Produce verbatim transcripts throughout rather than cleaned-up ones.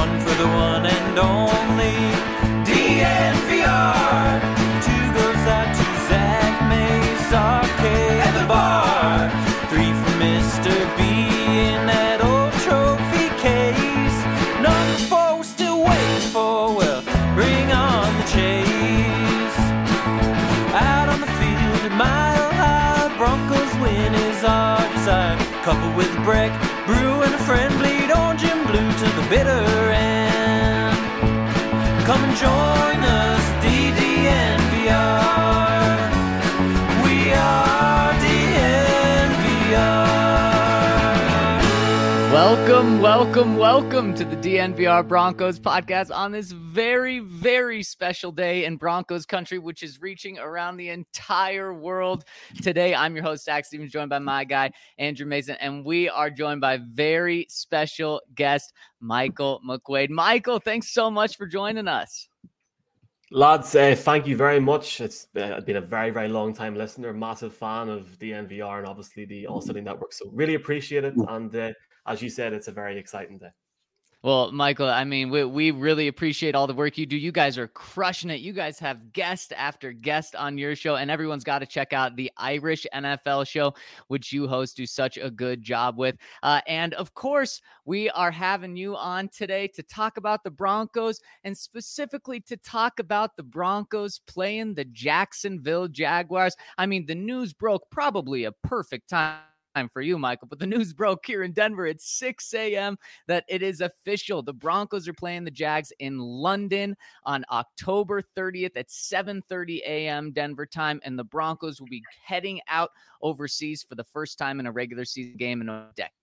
one for the one and only D N V R. Two goes out to Zach Mays, Arcade at the bar. Three for Mister B in that old trophy case. Number four we're still waiting for, well, bring on the chase. Out on the field, a mile high, Broncos win is our desire. Coupled with a break, brew and a friend, bleed orange and blue to the bitter end. Come and join us, D D N V R. We are D N V R. Welcome, welcome, welcome to the D N V R Broncos podcast on this very, very special day in Broncos country, which is reaching around the entire world. Today, I'm your host, Zach Stevens, joined by my guy, Andrew Mason, and we are joined by very special guest, Michael McQuaid. Michael, thanks so much for joining us. Lads, uh, thank you very much. It's uh, been a very, very long time listener, massive fan of D N V R and obviously the All City Network. So really appreciate it. And uh, as you said, it's a very exciting day. Well, Michael, I mean, we, we really appreciate all the work you do. You guys are crushing it. You guys have guest after guest on your show, and everyone's got to check out the Irish N F L show, which you host, do such a good job with. Uh, and of course, we are having you on today to talk about the Broncos, and specifically to talk about the Broncos playing the Jacksonville Jaguars. I mean, the news broke probably a perfect time for you, Michael, but the news broke here in Denver at six a.m. that it is official. The Broncos are playing the Jags in London on October thirtieth at seven thirty a.m. Denver time, and the Broncos will be heading out overseas for the first time in a regular season game in a decade.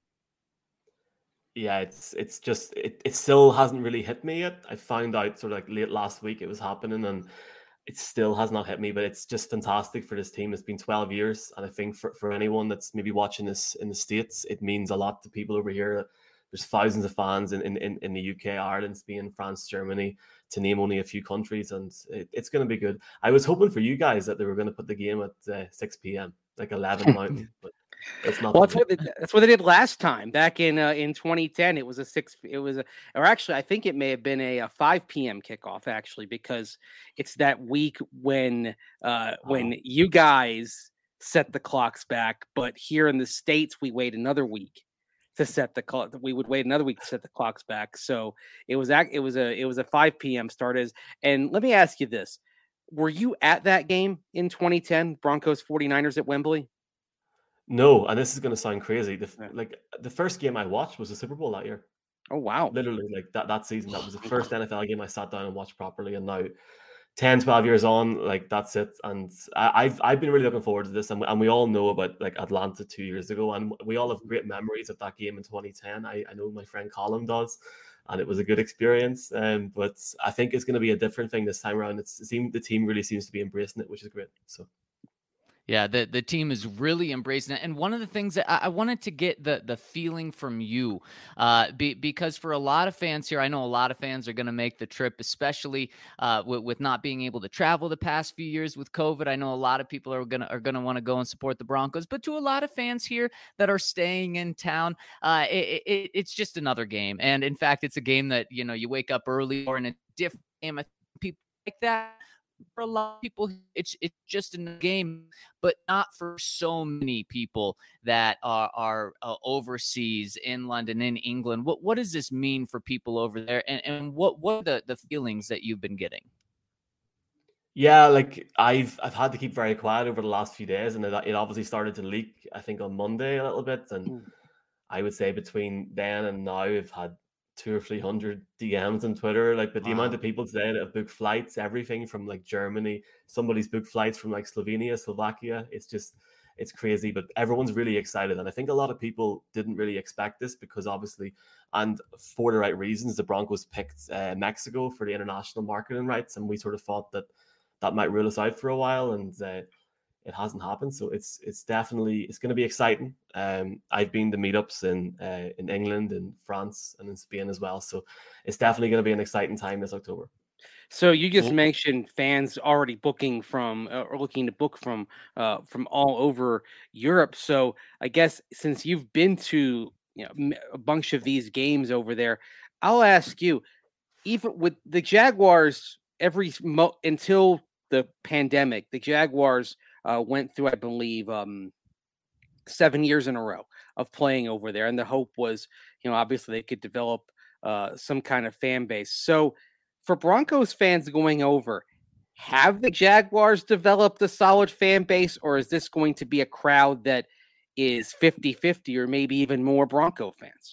Yeah, it's it's just, it, it still hasn't really hit me yet. I found out sort of like late last week it was happening, and it still has not hit me, but it's just fantastic for this team. It's been twelve years, and I think for, for anyone that's maybe watching this in the States, it means a lot to people over here. There's thousands of fans in, in, in the U K, Ireland, Spain, France, Germany, to name only a few countries, and it, it's going to be good. I was hoping for you guys that they were going to put the game at uh, six p.m., like eleven Mountain, but it's not. Well, that's what, they, that's what they did last time back in uh, in twenty ten. It was a six. It was a, or actually, I think it may have been a, a five p.m. kickoff actually, because it's that week when uh, when oh. you guys set the clocks back, but here in the States we wait another week to set the clock. We would wait another week to set the clocks back. So it was it was a it was a five p.m. start. As and let me ask you this: were you at that game in twenty ten, Broncos 49ers at Wembley? No, and this is going to sound crazy. The, like the first game I watched was the Super Bowl that year. Oh, wow. Literally, like that, that season. That was the first N F L game I sat down and watched properly. And now ten, twelve years on, like that's it. And I, I've I've been really looking forward to this. And, and we all know about like Atlanta two years ago. And we all have great memories of that game in twenty ten. I, I know my friend Colin does. And it was a good experience. Um, but I think it's going to be a different thing this time around. It's, it seemed, the team really seems to be embracing it, which is great. So. Yeah, the, the team is really embracing it. And one of the things that I, I wanted to get the, the feeling from you, uh, be, because for a lot of fans here, I know a lot of fans are going to make the trip, especially uh, with, with not being able to travel the past few years with COVID. I know a lot of people are going to are going to want to go and support the Broncos. But to a lot of fans here that are staying in town, uh, it, it, it's just another game. And in fact, it's a game that, you know, you wake up early or in a different game. I think people like that. For a lot of people, it's it's just a game, but not for so many people that are, are uh, overseas in London, in England. What what does this mean for people over there, and, and what what are the, the feelings that you've been getting? Yeah, like I've I've had to keep very quiet over the last few days, and it, it obviously started to leak, I think, on Monday a little bit, and mm. I would say between then and now, I've had two or three hundred D Ms on Twitter, like, but the wow. amount of people today that have booked flights, everything from like Germany, somebody's booked flights from like Slovenia, Slovakia. It's just, it's crazy, but everyone's really excited. And I think a lot of people didn't really expect this because obviously, and for the right reasons, the Broncos picked uh, Mexico for the international marketing rights. And we sort of thought that that might rule us out for a while. And uh, it hasn't happened. So it's it's definitely, it's going to be exciting. Um, I've been to meetups in uh, in England, in France, and in Spain as well. So it's definitely going to be an exciting time this October. So you just mentioned fans already booking from uh, or looking to book from uh, from all over Europe. So I guess since you've been to, you know, a bunch of these games over there, I'll ask you, even with the Jaguars, every mo- until the pandemic, the Jaguars uh, went through, I believe, um, seven years in a row of playing over there, and the hope was, you know, obviously they could develop uh, some kind of fan base. So, for Broncos fans going over, have the Jaguars developed a solid fan base, or is this going to be a crowd that is fifty-fifty or maybe even more Bronco fans?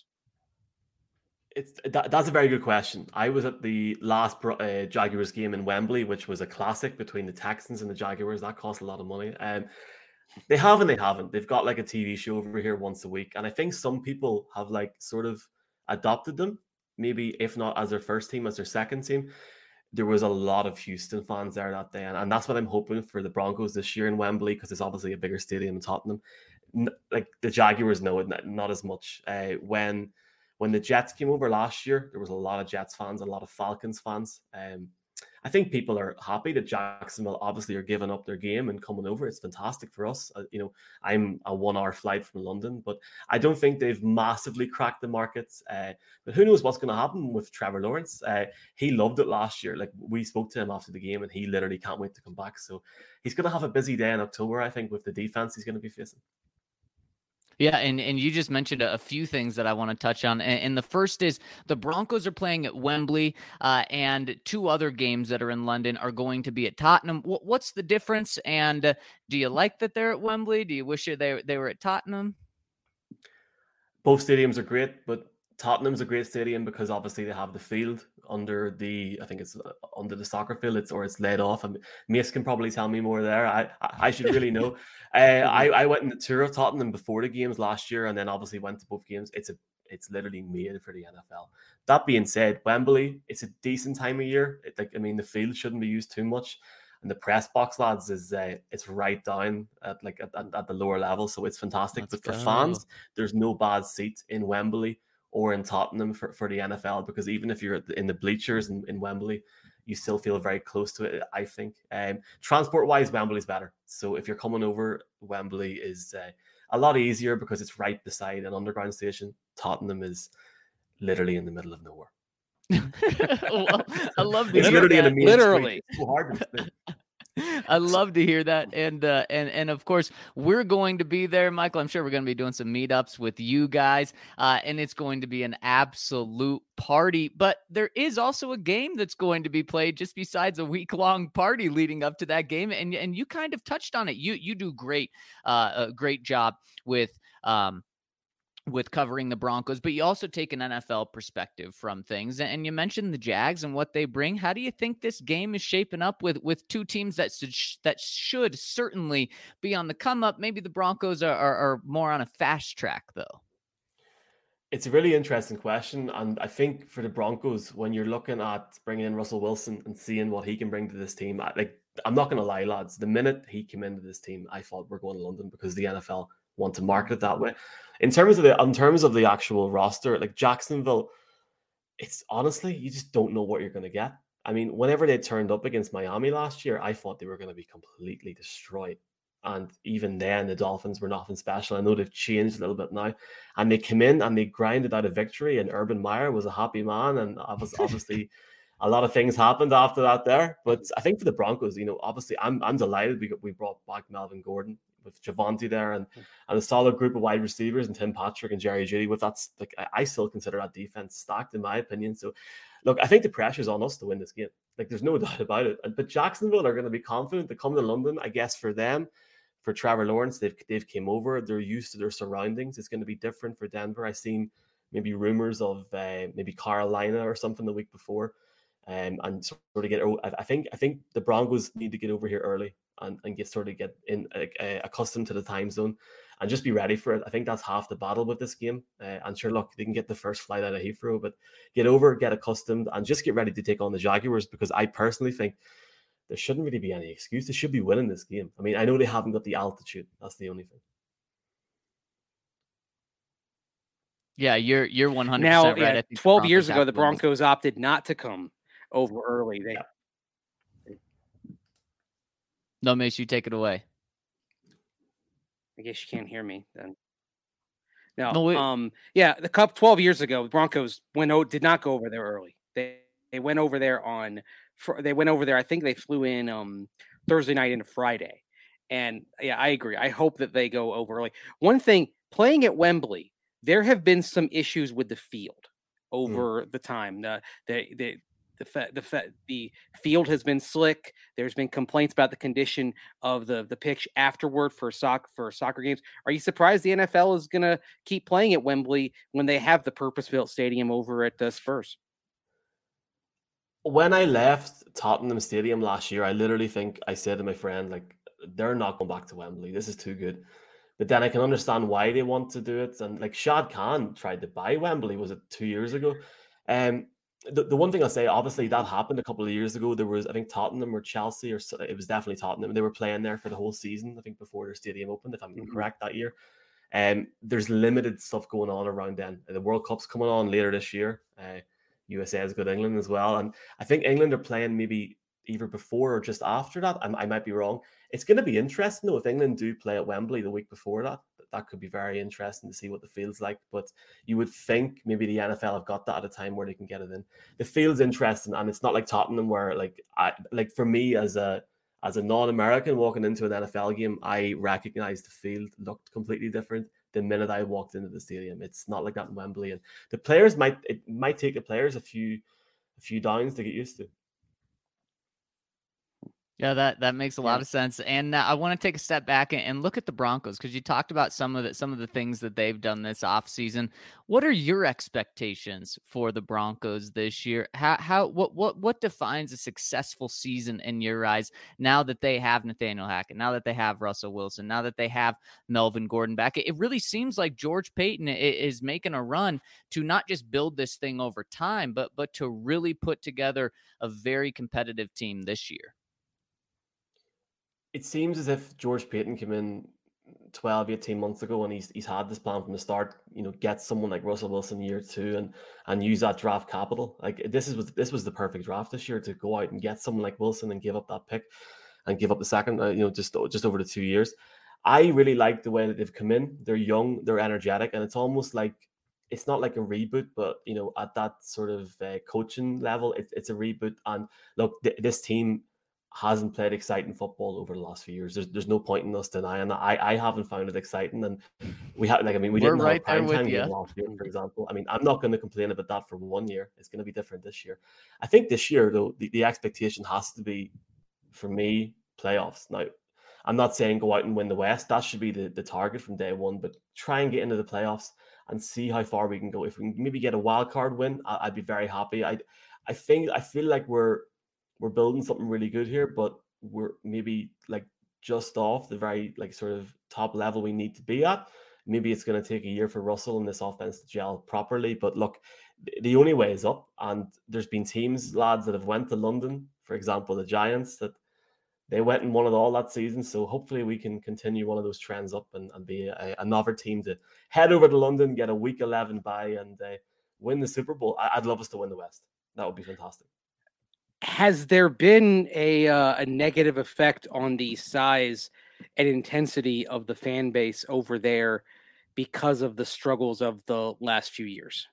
It's that, that's a very good question. I was at the last uh, Jaguars game in Wembley, which was a classic between the Texans and the Jaguars. That cost a lot of money. Um, they have and they haven't. They've got like a T V show over here once a week, and I think some people have like sort of adopted them. Maybe if not as their first team, as their second team. There was a lot of Houston fans there that day, and, and that's what I'm hoping for the Broncos this year in Wembley, because it's obviously a bigger stadium in Tottenham. N- like the Jaguars know it, not, not as much. Uh, when when the Jets came over last year, there was a lot of Jets fans, a lot of Falcons fans. Um, I think people are happy that Jacksonville obviously are giving up their game and coming over. It's fantastic for us. Uh, you know, I'm a one-hour flight from London, but I don't think they've massively cracked the markets. Uh, but who knows what's going to happen with Trevor Lawrence? Uh, he loved it last year. Like, we spoke to him after the game, and he literally can't wait to come back. So he's going to have a busy day in October, I think, with the defense he's going to be facing. Yeah, and, and you just mentioned a, a few things that I want to touch on. And, and the first is the Broncos are playing at Wembley, uh, and two other games that are in London are going to be at Tottenham. W- what's the difference? And uh, do you like that they're at Wembley? Do you wish they, they were at Tottenham? Both stadiums are great, but Tottenham's a great stadium because obviously they have the field under the, I think it's under the soccer field, it's or it's laid off. And Mace can probably tell me more there. I I should really know. uh, I I went on the tour of Tottenham before the games last year, and then obviously went to both games. It's a it's literally made for the N F L. That being said, Wembley, it's a decent time of year. It, like I mean, the field shouldn't be used too much. And the press box, lads, is uh, it's right down at like at, at the lower level, so it's fantastic. Let's but for go. fans, there's no bad seat in Wembley or in Tottenham for, for the N F L, because even if you're in the bleachers in, in Wembley, you still feel very close to it, I think. Um, transport-wise, Wembley's better. So if you're coming over, Wembley is uh, a lot easier because it's right beside an underground station. Tottenham is literally in the middle of nowhere. Well, I love to it's hear literally that. in the main Literally. street. It's so hard to explain. I love to hear that, and uh, and and of course we're going to be there, Michael. I'm sure we're going to be doing some meetups with you guys, uh, and it's going to be an absolute party. But there is also a game that's going to be played just besides a week long party leading up to that game, and and you kind of touched on it. You you do great, uh, a great job with um. with covering the Broncos, but you also take an N F L perspective from things. And you mentioned the Jags and what they bring. How do you think this game is shaping up with, with two teams that should, that should certainly be on the come up? Maybe the Broncos are, are, are more on a fast track, though. It's a really interesting question. And I think for the Broncos, when you're looking at bringing in Russell Wilson and seeing what he can bring to this team, I, like, I'm not going to lie, lads, the minute he came into this team, I thought we're going to London, because the N F L want to market it that way. In terms of the in terms of the actual roster, like Jacksonville, it's honestly, you just don't know what you're going to get. I mean, whenever they turned up against Miami last year, I thought they were going to be completely destroyed. And even then, the Dolphins were nothing special. I know they've changed a little bit now. And they came in and they grinded out a victory, and Urban Meyer was a happy man. And obviously, a lot of things happened after that there. But I think for the Broncos, you know, obviously, I'm I'm delighted we got, we brought back Melvin Gordon with Javonte there, and, and a solid group of wide receivers, and Tim Patrick and Jerry Jeudy. With that's like I, I still consider that defense stacked, in my opinion. So, look, I think the pressure's on us to win this game. Like, there's no doubt about it. But Jacksonville are going to be confident to come to London. I guess for them, for Trevor Lawrence, they've they've came over. They're used to their surroundings. It's going to be different for Denver. I've seen maybe rumors of uh, maybe Carolina or something the week before. Um, and sort of get, I think, I think the Broncos need to get over here early and, and get sort of get in uh, accustomed to the time zone and just be ready for it. I think that's half the battle with this game. Uh, and sure, look, they can get the first flight out of Heathrow, but get over, get accustomed, and just get ready to take on the Jaguars, because I personally think there shouldn't really be any excuse. They should be winning this game. I mean, I know they haven't got the altitude. That's the only thing. Yeah, you're you're one hundred percent now, right. Yeah, I think twelve years ago, the Broncos opted not to come over early. They, yeah. No, Mace, you take it away. I guess you can't hear me then. No, No, wait. um, yeah, the Cup twelve years ago, the Broncos went o- did not go over there early. They they went over there on fr- they went over there. I think they flew in um Thursday night into Friday, and yeah, I agree. I hope that they go over early. One thing, playing at Wembley, there have been some issues with the field over mm. the time. The the the the fa- the fa- the field has been slick. There's been complaints about the condition of the the pitch afterward for soccer for soccer games. Are you surprised the N F L is going to keep playing at Wembley when they have the purpose-built stadium over at uh, Spurs? When I left Tottenham Stadium last year, I literally think I said to my friend, like, they're not going back to Wembley. This is too good. But then I can understand why they want to do it. And like Shad Khan tried to buy Wembley, was it two years ago? Um, the, the one thing I'll say, obviously that happened a couple of years ago. There was, I think, Tottenham or Chelsea, or it was definitely Tottenham. They were playing there for the whole season, I think, before their stadium opened, if I'm mm-hmm. correct, that year. Um, there's limited stuff going on around then. The World Cup's coming on later this year. Uh, U S A has got England as well. And I think England are playing maybe either before or just after that. I, I might be wrong. It's going to be interesting, though, if England do play at Wembley the week before that. That could be very interesting to see what the field's like. But you would think maybe the N F L have got that at a time where they can get it in. The field's interesting, and it's not like Tottenham where, like, I like for me as a as a non-American walking into an N F L game, I recognized the field looked completely different the minute I walked into the stadium. It's not like that in Wembley, and the players might it might take the players a few a few downs to get used to. Yeah, that, that makes a lot of sense. And uh, I want to take a step back and, and look at the Broncos, because you talked about some of the some of the things that they've done this offseason. What are your expectations for the Broncos this year? How how what what what defines a successful season in your eyes now that they have Nathaniel Hackett, now that they have Russell Wilson, now that they have Melvin Gordon back? It, it really seems like George Paton is making a run to not just build this thing over time, but but to really put together a very competitive team this year. It seems as if George Paton came in twelve, eighteen months ago, and he's he's had this plan from the start, you know, get someone like Russell Wilson year two and and use that draft capital. Like this is this was the perfect draft this year to go out and get someone like Wilson and give up that pick and give up the second, uh, you know, just, just over the two years. I really like the way that they've come in. They're young, they're energetic, and it's almost like, it's not like a reboot, but, you know, at that sort of uh, coaching level, it, it's a reboot. And look, th- this team hasn't played exciting football over the last few years. There's there's no point in us denying that. I, I haven't found it exciting, and we have like I mean we We're didn't right have a prime time you. game last year, for example. I mean, I'm not going to complain about that for one year. It's going to be different this year. I think this year though, the, the expectation has to be, for me, playoffs. Now, I'm not saying go out and win the West. That should be the, the target from day one, but try and get into the playoffs and see how far we can go. If we can maybe get a wild card win, I, I'd be very happy. I I think I feel like we're we're building something really good here, but we're maybe like just off the very like sort of top level we need to be at. Maybe it's going to take a year for Russell and this offense to gel properly. But look, the only way is up. And there's been teams, lads, that have went to London, for example, the Giants, that they went and won it all that season. So hopefully we can continue one of those trends up and, and be a, another team to head over to London, get a week eleven bye, and uh, win the Super Bowl. I, I'd love us to win the West. That would be fantastic. Has there been a uh, a negative effect on the size and intensity of the fan base over there because of the struggles of the last few years?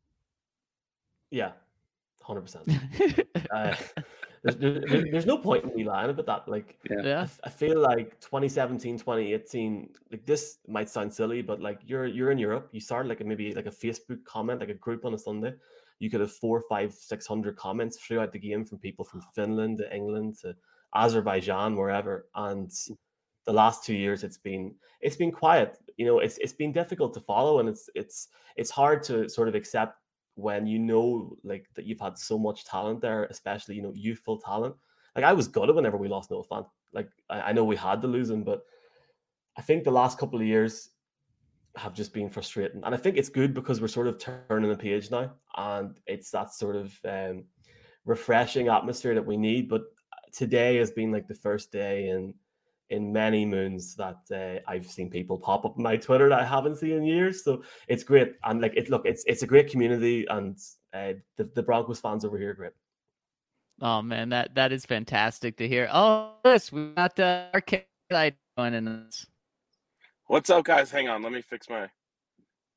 Yeah, one hundred percent. uh, there's, there's, there's no point in me lying about that. Like, yeah. I, I feel like twenty seventeen, twenty eighteen, like this might sound silly, but like you're you're in Europe, you start like a, maybe like a Facebook comment, like a group on a Sunday. You could have four, five, six hundred comments throughout the game from people from Finland to England to Azerbaijan, wherever. And the last two years, it's been it's been quiet. You know, it's it's been difficult to follow, and it's it's it's hard to sort of accept when you know like that you've had so much talent there, especially you know youthful talent. Like I was gutted whenever we lost Noah Fant. Like I, I know we had to lose him, but I think the last couple of years have just been frustrating, and I think it's good because we're sort of turning the page now, and it's that sort of um, refreshing atmosphere that we need. But today has been like the first day in in many moons that uh, I've seen people pop up on my Twitter that I haven't seen in years. So it's great, and like it look, it's it's a great community, and uh, the the Broncos fans over here are great. Oh man, that that is fantastic to hear. Oh, yes, we got uh, our kid joining us. What's up, guys? Hang on, let me fix my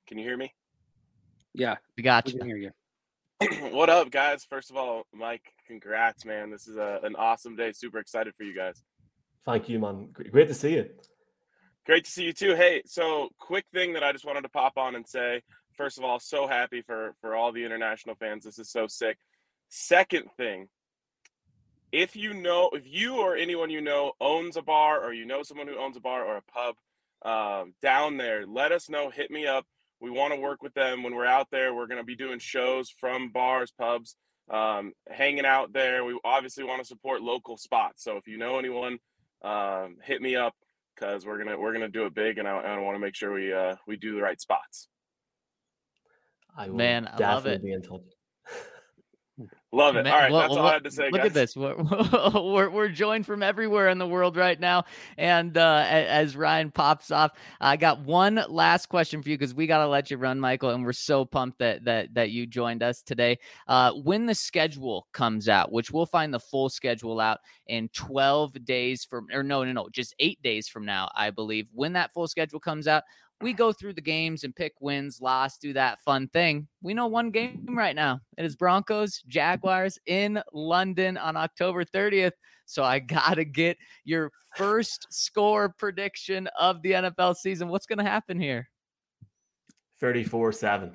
Can you hear me? Yeah, We got we you. can hear you. What up, guys? First of all, Mike, congrats, man. This is a, an awesome day. Super excited for you guys. Thank you, man. Great to see you. Great to see you too. Hey, so quick thing that I just wanted to pop on and say, first of all, so happy for, for all the international fans. This is so sick. Second thing, if you know, if you or anyone you know owns a bar, or you know someone who owns a bar or a pub um, down there, let us know. Hit me up. We want to work with them when we're out there. We're going to be doing shows from bars, pubs, um, hanging out there. We obviously want to support local spots. So if you know anyone, um, hit me up, because we're gonna we're gonna do it big, and I, I want to make sure we uh, we do the right spots. I will Man, I love definitely it. be in touch. Love it. Man, All right, well, that's all well, I had to say, Look guys. at this. We're, we're we're joined from everywhere in the world right now. And uh, a- as Ryan pops off, I got one last question for you, because we got to let you run, Michael. And we're so pumped that that that you joined us today. Uh, when the schedule comes out, which we'll find the full schedule out in twelve days from, or no, no, no, just eight days from now, I believe. When that full schedule comes out, we go through the games and pick wins, loss, do that fun thing. We know one game right now. It is Broncos Jaguars in London on October thirtieth. So I got to get your first score prediction of the N F L season. What's going to happen here? thirty-four seven.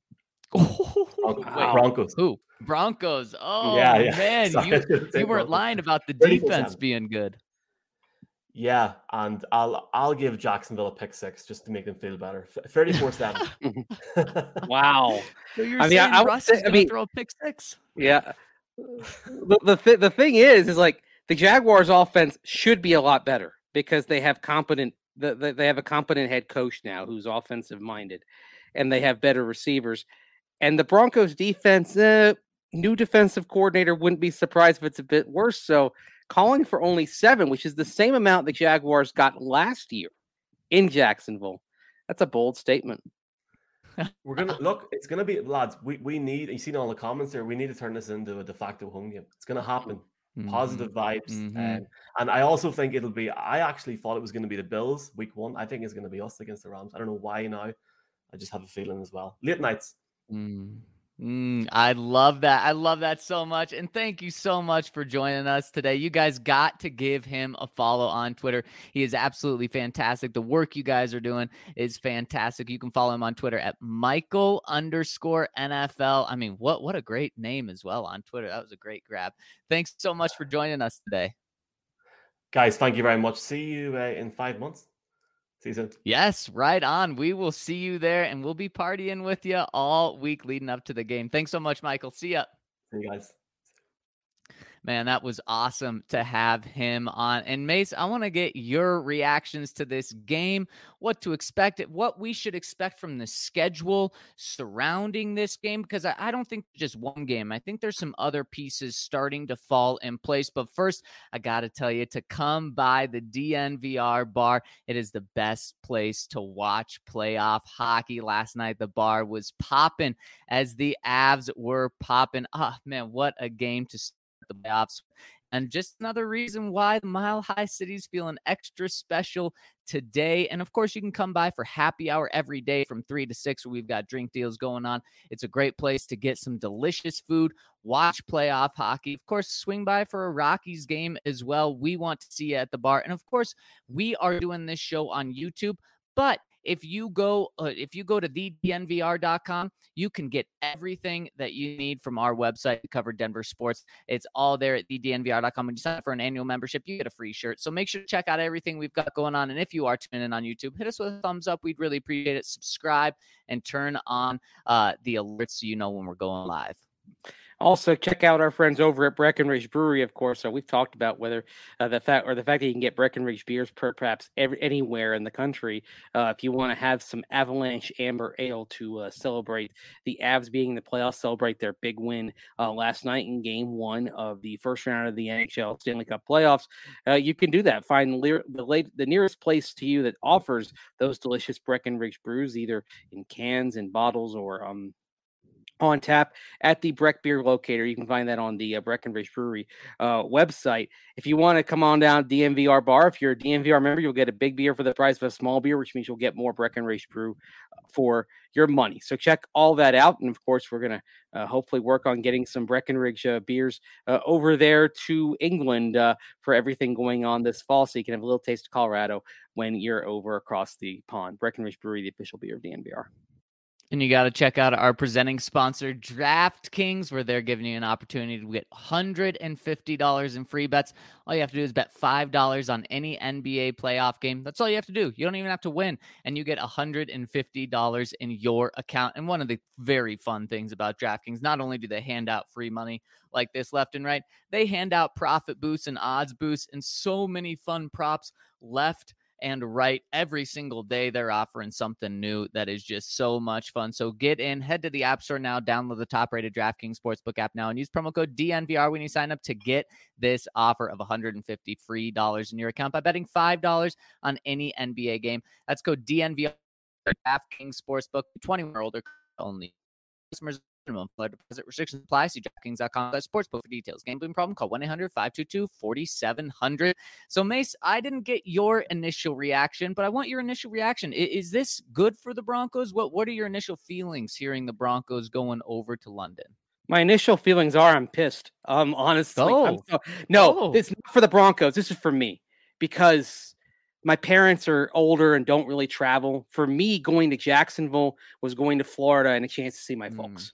Wait, Broncos. Who? Broncos. Oh, Yeah, yeah. man. Sorry, I You, shouldn't say you weren't Broncos. lying about the thirty-four defense seven. being good. Yeah, and I'll I'll give Jacksonville a pick six just to make them feel better. thirty-four seven. Wow. So you're I mean, saying I- I would Russ say- is I going to mean- throw a pick six? Yeah. The the, th- the thing is, is like the Jaguars' offense should be a lot better because they have competent. The, the, they have a competent head coach now who's offensive minded, and they have better receivers. And the Broncos' defense, uh, new defensive coordinator, wouldn't be surprised if it's a bit worse. So, calling for only seven, which is the same amount the Jaguars got last year in Jacksonville, that's a bold statement. We're gonna look. It's gonna be, lads. We we need. You seen all the comments there. We need to turn this into a de facto home game. It's gonna happen. Mhm. Positive vibes, Mhm. um, and I also think it'll be. I actually thought it was going to be the Bills week one. I think it's going to be us against the Rams. I don't know why now. I just have a feeling as well. Late nights. Mm. Mm, I love that. I love that so much. And thank you so much for joining us today. You guys got to give him a follow on Twitter. He is absolutely fantastic. The work you guys are doing is fantastic. You can follow him on Twitter at Michael underscore N F L. I mean, what, what a great name as well on Twitter. That was a great grab. Thanks so much for joining us today. Guys, thank you very much. See you uh, in five months. See you soon. Yes, right on. We will see you there, and we'll be partying with you all week leading up to the game. Thanks so much, Michael. See ya. See you guys. Man, that was awesome to have him on. And Mace, I want to get your reactions to this game, what to expect, what we should expect from the schedule surrounding this game, because I, I don't think just one game. I think there's some other pieces starting to fall in place. But first, I got to tell you to come by the D N V R bar. It is the best place to watch playoff hockey. Last night, the bar was popping as the Avs were popping. Ah, man, what a game to start the playoffs. And just another reason why the Mile High City is feeling extra special today. And of course, you can come by for happy hour every day from three to six, where we've got drink deals going on. It's a great place to get some delicious food, watch playoff hockey. Of course, swing by for a Rockies game as well. We want to see you at the bar. And of course, we are doing this show on YouTube, but if you go, uh, if you go to the D N V R dot com, you can get everything that you need from our website to cover Denver sports. It's all there at the D N V R dot com. When you sign up for an annual membership, you get a free shirt. So make sure to check out everything we've got going on. And if you are tuning in on YouTube, hit us with a thumbs up. We'd really appreciate it. Subscribe and turn on uh, the alerts so you know when we're going live. Also, check out our friends over at Breckenridge Brewery, of course. So we've talked about whether uh, the fact or the fact that you can get Breckenridge beers per, perhaps every, anywhere in the country. Uh, if you want to have some Avalanche Amber Ale to uh, celebrate the Avs being in the playoffs, celebrate their big win uh, last night in Game One of the first round of the N H L Stanley Cup playoffs, uh, you can do that. Find the, the, late, the nearest place to you that offers those delicious Breckenridge brews, either in cans and bottles or um. on tap at the Breck Beer Locator. You can find that on the uh, Breckenridge Brewery uh, website. If you want to come on down to D N V R Bar, if you're a D N V R member, you'll get a big beer for the price of a small beer, which means you'll get more Breckenridge Brew for your money. So check all that out. And of course, we're going to uh, hopefully work on getting some Breckenridge uh, beers uh, over there to England uh, for everything going on this fall. So you can have a little taste of Colorado when you're over across the pond. Breckenridge Brewery, the official beer of D N V R. And you got to check out our presenting sponsor, DraftKings, where they're giving you an opportunity to get one hundred fifty dollars in free bets. All you have to do is bet five dollars on any N B A playoff game. That's all you have to do. You don't even have to win, and you get one hundred fifty dollars in your account. And one of the very fun things about DraftKings, not only do they hand out free money like this left and right, they hand out profit boosts and odds boosts and so many fun props left and right. Every single day they're offering something new that is just so much fun. So get in, head to the App Store now, download the top-rated DraftKings Sportsbook app now, and use promo code D N V R when you sign up to get this offer of one hundred fifty free dollars in your account by betting five dollars on any N B A game. That's code D N V R, DraftKings Sportsbook, twenty-one or older only. Customers minimum flood deposit restrictions apply. See DraftKings dot com sportsbook for details. Gambling problem? Call one eight hundred five two two four seven zero zero. So Mace, I didn't get your initial reaction, but I want your initial reaction. Is, is this good for the Broncos? What What are your initial feelings hearing the Broncos going over to London? My initial feelings are I'm pissed. Um, honestly, oh. I'm so, no, oh. This is not for the Broncos. This is for me because my parents are older and don't really travel. For me, going to Jacksonville was going to Florida and a chance to see my mm. folks.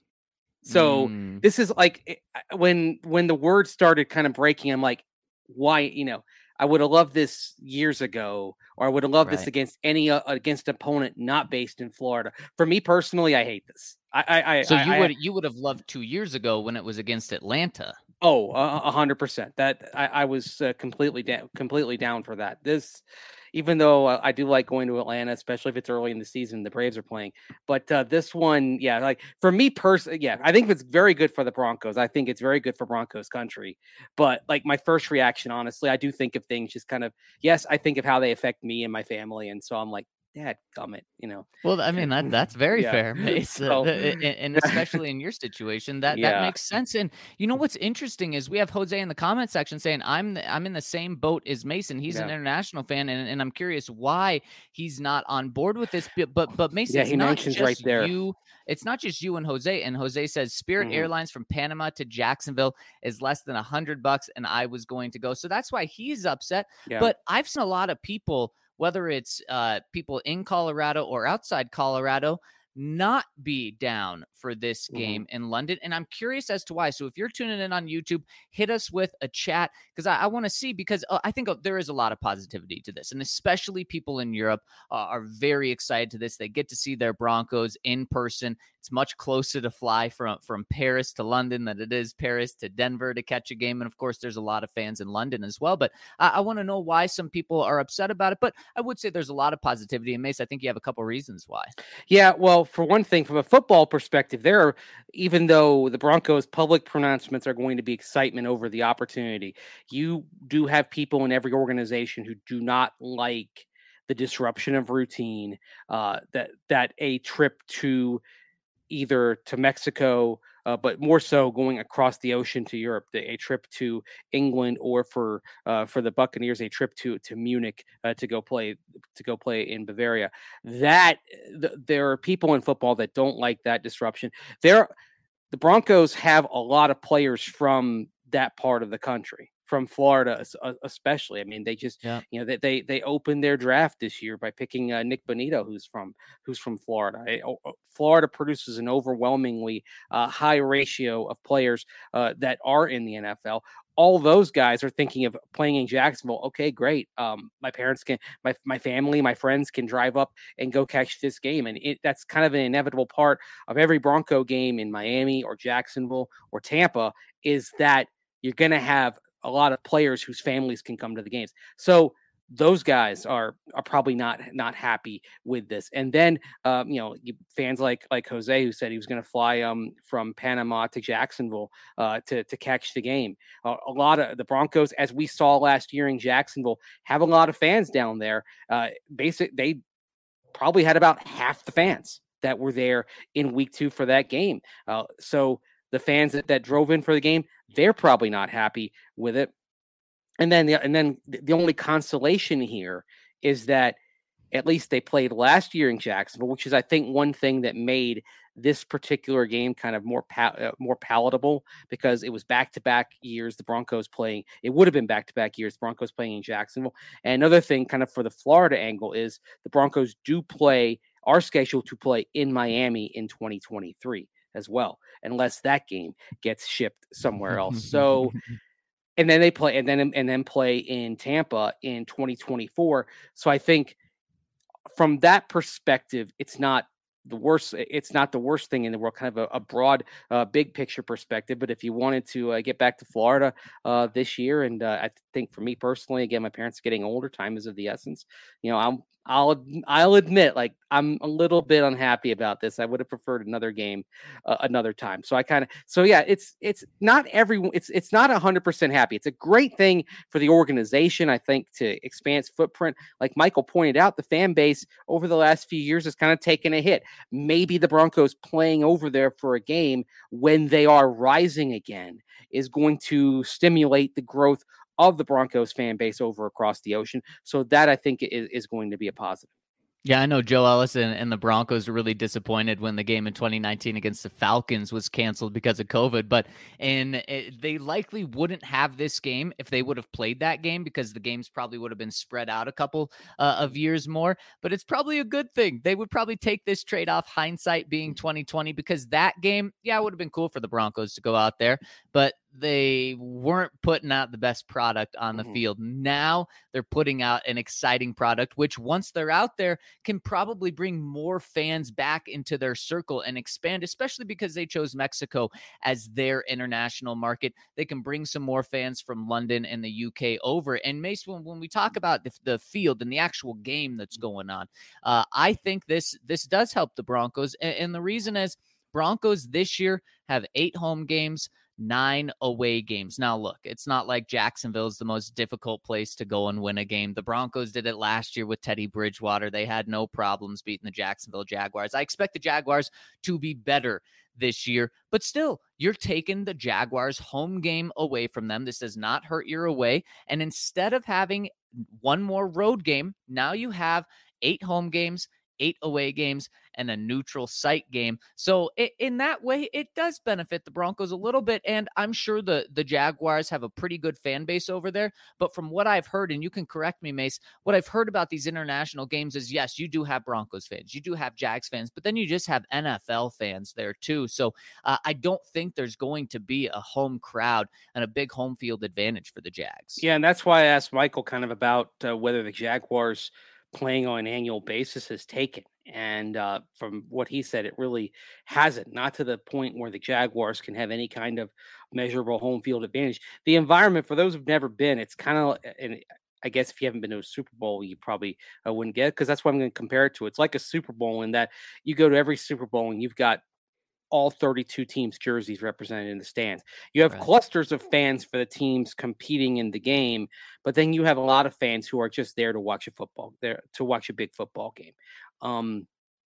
So mm. this is like when when the word started kind of breaking, I'm like, why? You know, I would have loved this years ago, or I would have loved right. this against any uh, against an opponent not based in Florida. For me personally, I hate this. I, I, I so you I, would I, you would have loved two years ago when it was against Atlanta. Oh, a hundred percent. That I, I was uh, completely down, completely down for that. This, even though uh, I do like going to Atlanta, especially if it's early in the season, the Braves are playing. But uh, this one, yeah, like for me personally, yeah, I think it's very good for the Broncos. I think it's very good for Broncos country. But like my first reaction, honestly, I do think of things just kind of, yes, I think of how they affect me and my family, and so I'm like, Dad, gummit, you know. Well, I mean that that's very yeah. fair, Mace, So, and, and especially in your situation, that yeah. that makes sense. And you know what's interesting is we have Jose in the comment section saying I'm the, I'm in the same boat as Mason. He's yeah. an international fan, and, and I'm curious why he's not on board with this. But but, but Mason, yeah, it's he not mentions just right there. you. It's not just you and Jose. And Jose says Spirit Mhm. Airlines from Panama to Jacksonville is less than a hundred bucks, and I was going to go. So that's why he's upset. Yeah. But I've seen a lot of people, whether it's uh, people in Colorado or outside Colorado, not be down for this game mm-hmm. in London. And I'm curious as to why. So if you're tuning in on YouTube, hit us with a chat, because I, I want to see, because uh, I think uh, there is a lot of positivity to this. And especially people in Europe uh, are very excited to this. They get to see their Broncos in person. It's much closer to fly from, from Paris to London than it is Paris to Denver to catch a game. And of course, there's a lot of fans in London as well. But I, I want to know why some people are upset about it. But I would say there's a lot of positivity. And Mace, I think you have a couple reasons why. Yeah, well, for one thing, from a football perspective, there are, even though the Broncos' public pronouncements are going to be excitement over the opportunity, you do have people in every organization who do not like the disruption of routine, uh, that that a trip to either to Mexico, uh, but more so going across the ocean to Europe, the, a trip to England, or for uh, for the Buccaneers, a trip to to Munich uh, to go play to go play in Bavaria. That th- there are people in football that don't like that disruption. There, the Broncos have a lot of players from that part of the country, from Florida especially. I mean, they just, yeah. you know, they, they they opened their draft this year by picking uh, Nick Bonito, who's from who's from Florida. I, oh, Florida produces an overwhelmingly uh, high ratio of players uh, that are in the N F L. All those guys are thinking of playing in Jacksonville. Okay, great. Um, my parents can, my my family, my friends can drive up and go catch this game, and it, that's kind of an inevitable part of every Bronco game in Miami or Jacksonville or Tampa, is that you're going to have a lot of players whose families can come to the games. So those guys are are probably not not happy with this. And then um, you know, fans like like Jose, who said he was going to fly um from Panama to Jacksonville uh, to to catch the game. Uh, a lot of the Broncos, as we saw last year in Jacksonville, have a lot of fans down there. Uh, basic they probably had about half the fans that were there in week two for that game. Uh, so the fans that, that drove in for the game, they're probably not happy with it. And then the, and then the only consolation here is that at least they played last year in Jacksonville, which is, I think, one thing that made this particular game kind of more pa- uh, more palatable, because it was back-to-back years the Broncos playing. It would have been back-to-back years Broncos playing in Jacksonville. And another thing, kind of for the Florida angle, is the Broncos do play, are scheduled to play in Miami in twenty twenty-three as well, unless that game gets shipped somewhere else. So. And then they play, and then and then play in Tampa in twenty twenty-four. So I think from that perspective, it's not the worst. It's not the worst thing in the world. Kind of a, a broad, uh, big picture perspective. But if you wanted to uh, get back to Florida uh, this year, and uh, I think for me personally, again, my parents are getting older. Time is of the essence. You know, I'm. I'll I'll admit, like, I'm a little bit unhappy about this. I would have preferred another game, uh, another time. So I kind of so yeah, it's it's not everyone. It's it's not a hundred percent happy. It's a great thing for the organization, I think, to expand its footprint. Like Michael pointed out, the fan base over the last few years has kind of taken a hit. Maybe the Broncos playing over there for a game when they are rising again is going to stimulate the growth of the Broncos fan base over across the ocean. So that, I think, is, is going to be a positive. Yeah, I know Joe Ellis and, and the Broncos were really disappointed when the game in twenty nineteen against the Falcons was canceled because of COVID, but and it, they likely wouldn't have this game if they would have played that game, because the games probably would have been spread out a couple uh, of years more. But it's probably a good thing. They would probably take this trade-off, hindsight being twenty twenty, because that game, yeah, it would have been cool for the Broncos to go out there, but they weren't putting out the best product on the mm-hmm. field. Now they're putting out an exciting product, which once they're out there can probably bring more fans back into their circle and expand, especially because they chose Mexico as their international market. They can bring some more fans from London and the U K over. And Mace, when, when we talk about the, the field and the actual game that's going on, uh, I think this, this does help the Broncos. And, and the reason is Broncos this year have eight home games, nine away games. Now, look, it's not like Jacksonville is the most difficult place to go and win a game. The Broncos did it last year with Teddy Bridgewater. They had no problems beating the Jacksonville Jaguars. I expect the Jaguars to be better this year, but still, you're taking the Jaguars home game away from them. This does not hurt your away. And instead of having one more road game, now you have eight home games, eight away games, and a neutral site game. So it, in that way, it does benefit the Broncos a little bit. And I'm sure the, the Jaguars have a pretty good fan base over there. But from what I've heard, and you can correct me, Mace, what I've heard about these international games is, yes, you do have Broncos fans, you do have Jags fans, but then you just have N F L fans there too. So uh, I don't think there's going to be a home crowd and a big home field advantage for the Jags. Yeah, and that's why I asked Michael kind of about uh, whether the Jaguars playing on an annual basis has taken. And uh, from what he said, it really hasn't, not to the point where the Jaguars can have any kind of measurable home field advantage. The environment, for those who've never been, it's kind of, and I guess if you haven't been to a Super Bowl, you probably uh, wouldn't get it, because that's what I'm going to compare it to. It's like a Super Bowl in that you go to every Super Bowl and you've got all thirty-two teams' jerseys represented in the stands. You have right. clusters of fans for the teams competing in the game, but then you have a lot of fans who are just there to watch a football, there to watch a big football game. Um,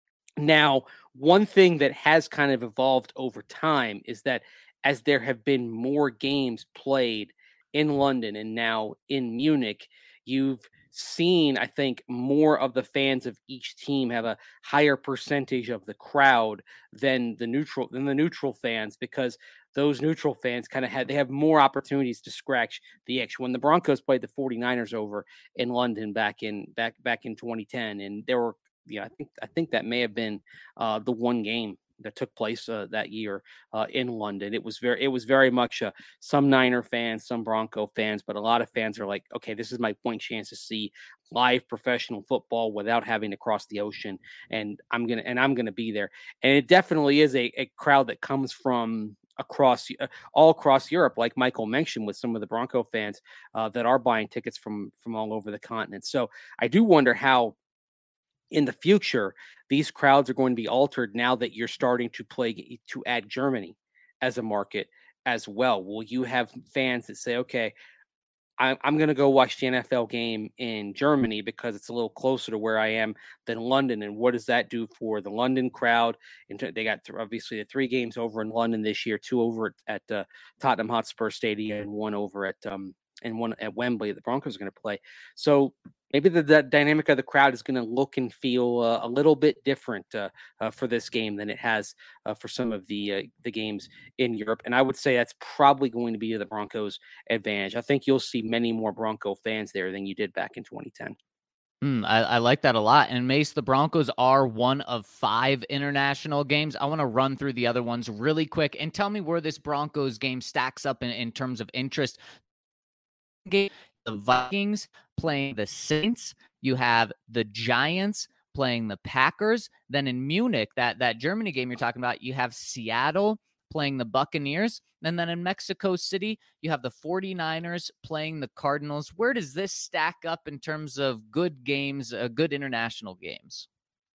now, one thing that has kind of evolved over time is that as there have been more games played in London and now in Munich, you've seen, I think, more of the fans of each team have a higher percentage of the crowd than the neutral than the neutral fans, because those neutral fans kind of had they have more opportunities to scratch the itch. When the Broncos played the forty-niners over in London back in back back in twenty ten, and there were yeah, I think I think that may have been uh, the one game that took place uh, that year uh, in London. It was very, it was very much uh, some Niner fans, some Bronco fans, but a lot of fans are like, okay, this is my point chance to see live professional football without having to cross the ocean, and I'm gonna and I'm gonna be there. And it definitely is a, a crowd that comes from across uh, all across Europe, like Michael mentioned, with some of the Bronco fans uh, that are buying tickets from from all over the continent. So I do wonder how, in the future, these crowds are going to be altered now that you're starting to play to add Germany as a market as well. Will you have fans that say, okay, I, I'm going to go watch the N F L game in Germany because it's a little closer to where I am than London. And what does that do for the London crowd? And they got th- obviously the three games over in London this year, two over at, at uh, Tottenham Hotspur Stadium and one over at um, and one at Wembley. The Broncos are going to play. So maybe the, the dynamic of the crowd is going to look and feel uh, a little bit different uh, uh, for this game than it has uh, for some of the uh, the games in Europe. And I would say that's probably going to be the Broncos' advantage. I think you'll see many more Bronco fans there than you did back in twenty ten. Mm, I, I like that a lot. And Mace, the Broncos are one of five international games. I want to run through the other ones really quick and tell me where this Broncos game stacks up in, in terms of interest. Game, the Vikings playing the Saints. You have the Giants playing the Packers. Then in Munich, that, that Germany game you're talking about, you have Seattle playing the Buccaneers. And then in Mexico City, you have the 49ers playing the Cardinals. Where does this stack up in terms of good games, uh, good international games?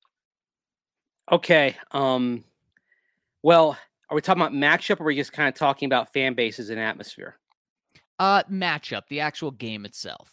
Okay. Um, well, are we talking about matchup or are we just kind of talking about fan bases and atmosphere? Uh, matchup, the actual game itself.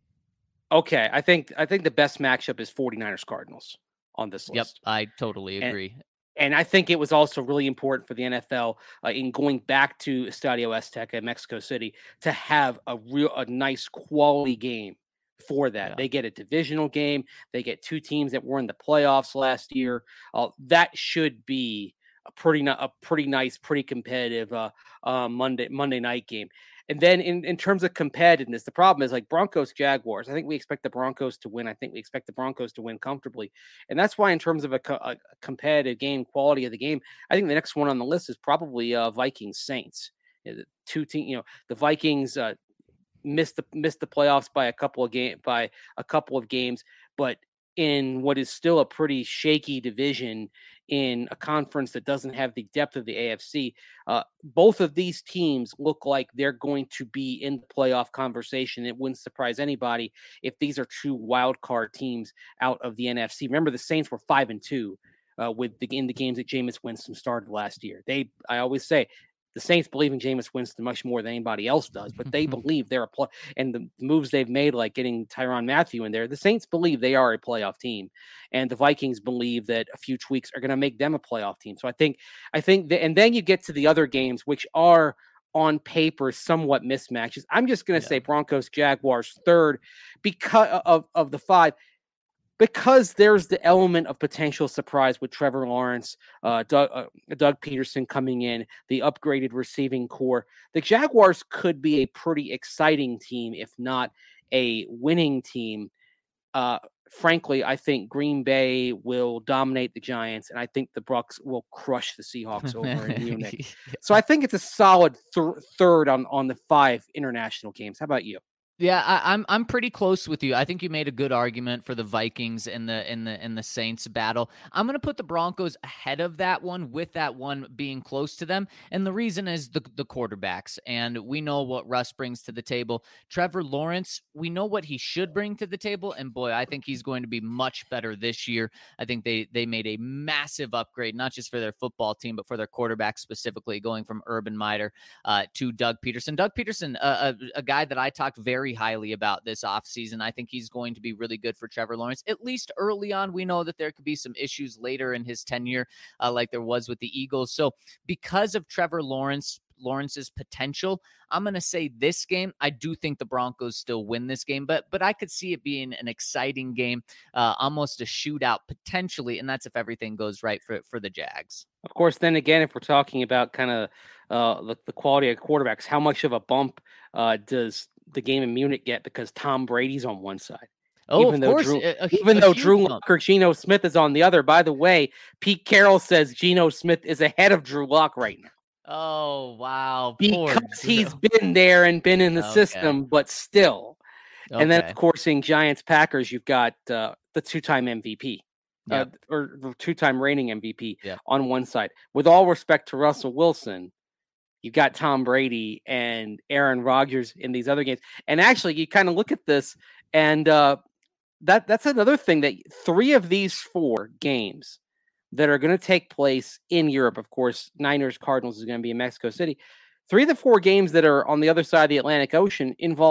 Okay, I think I think the best matchup is 49ers Cardinals on this list. Yep, I totally agree. And, and I think it was also really important for the N F L uh, in going back to Estadio Azteca in Mexico City to have a real a nice quality game for that. Yeah. They get a divisional game. They get two teams that were in the playoffs last year. Uh, that should be a pretty a pretty nice, pretty competitive uh, uh, Monday Monday night game. And then in, in terms of competitiveness, the problem is like Broncos, Jaguars. I think we expect the Broncos to win. I think we expect the Broncos to win comfortably. And that's why in terms of a, co- a competitive game, quality of the game, I think the next one on the list is probably uh, Vikings Saints. You know, the two team, you know, the Vikings uh, missed the missed the playoffs by a couple of game by a couple of games, but in what is still a pretty shaky division in a conference that doesn't have the depth of the A F C. Uh, both of these teams look like they're going to be in the playoff conversation. It wouldn't surprise anybody if these are two wild card teams out of the N F C. Remember, the Saints were five and two uh, with the, in the games that Jameis Winston started last year. They, I always say, the Saints believe in Jameis Winston much more than anybody else does, but they believe they're a play. And the moves they've made, like getting Tyrann Mathieu in there, the Saints believe they are a playoff team, and the Vikings believe that a few tweaks are going to make them a playoff team. So I think, I think, that, and then you get to the other games, which are on paper somewhat mismatches. I'm just going to yeah. say Broncos, Jaguars third because of of the five. Because there's the element of potential surprise with Trevor Lawrence, uh, Doug, uh, Doug Peterson coming in, the upgraded receiving core. The Jaguars could be a pretty exciting team, if not a winning team. Uh, frankly, I think Green Bay will dominate the Giants, and I think the Bucs will crush the Seahawks over in Munich. So I think it's a solid th- third on, on the five international games. How about you? Yeah, I, I'm I'm pretty close with you. I think you made a good argument for the Vikings and the in the in the Saints battle. I'm going to put the Broncos ahead of that one, with that one being close to them. And the reason is the the quarterbacks. And we know what Russ brings to the table. Trevor Lawrence, we know what he should bring to the table. And boy, I think he's going to be much better this year. I think they they made a massive upgrade, not just for their football team, but for their quarterback specifically, going from Urban Meyer uh, to Doug Peterson. Doug Peterson, uh, a, a guy that I talked very highly about this offseason. I think he's going to be really good for Trevor Lawrence, at least early on. We know that there could be some issues later in his tenure, uh, like there was with the Eagles. So because of Trevor Lawrence, Lawrence's potential, I'm going to say this game, I do think the Broncos still win this game, but but I could see it being an exciting game, uh, almost a shootout potentially, and that's if everything goes right for, for the Jags. Of course, then again, if we're talking about kind of uh, the, the quality of quarterbacks, how much of a bump uh, does the game in Munich get because Tom Brady's on one side? Oh, even of though course. Drew, a, a, even a though Drew bump. Lock or Geno Smith is on the other. By the way, Pete Carroll says Geno Smith is ahead of Drew Lock right now. Oh, wow. Because he's been there and been in the okay. system, but still. Okay. And then, of course, in Giants Packers, you've got uh, the two-time M V P. Yep. Uh, or the two-time reigning M V P yep. on one side. With all respect to Russell Wilson, you've got Tom Brady and Aaron Rodgers in these other games. And actually, you kind of look at this, and uh, that that's another thing, that three of these four games that are going to take place in Europe, of course, Niners, Cardinals is going to be in Mexico City. Three of the four games that are on the other side of the Atlantic Ocean involve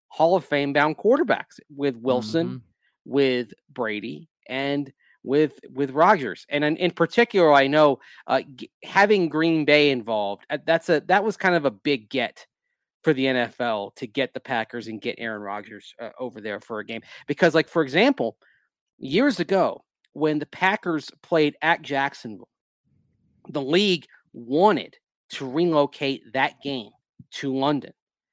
Hall of Fame bound quarterbacks with Wilson, Mm-hmm. with Brady, and with with Rodgers. And in, in particular, I know uh, g- having Green Bay involved, uh, that's a that was kind of a big get for the N F L to get the Packers and get Aaron Rodgers uh, over there for a game. Because, like, for example, years ago, when the Packers played at Jacksonville, the league wanted to relocate that game to London,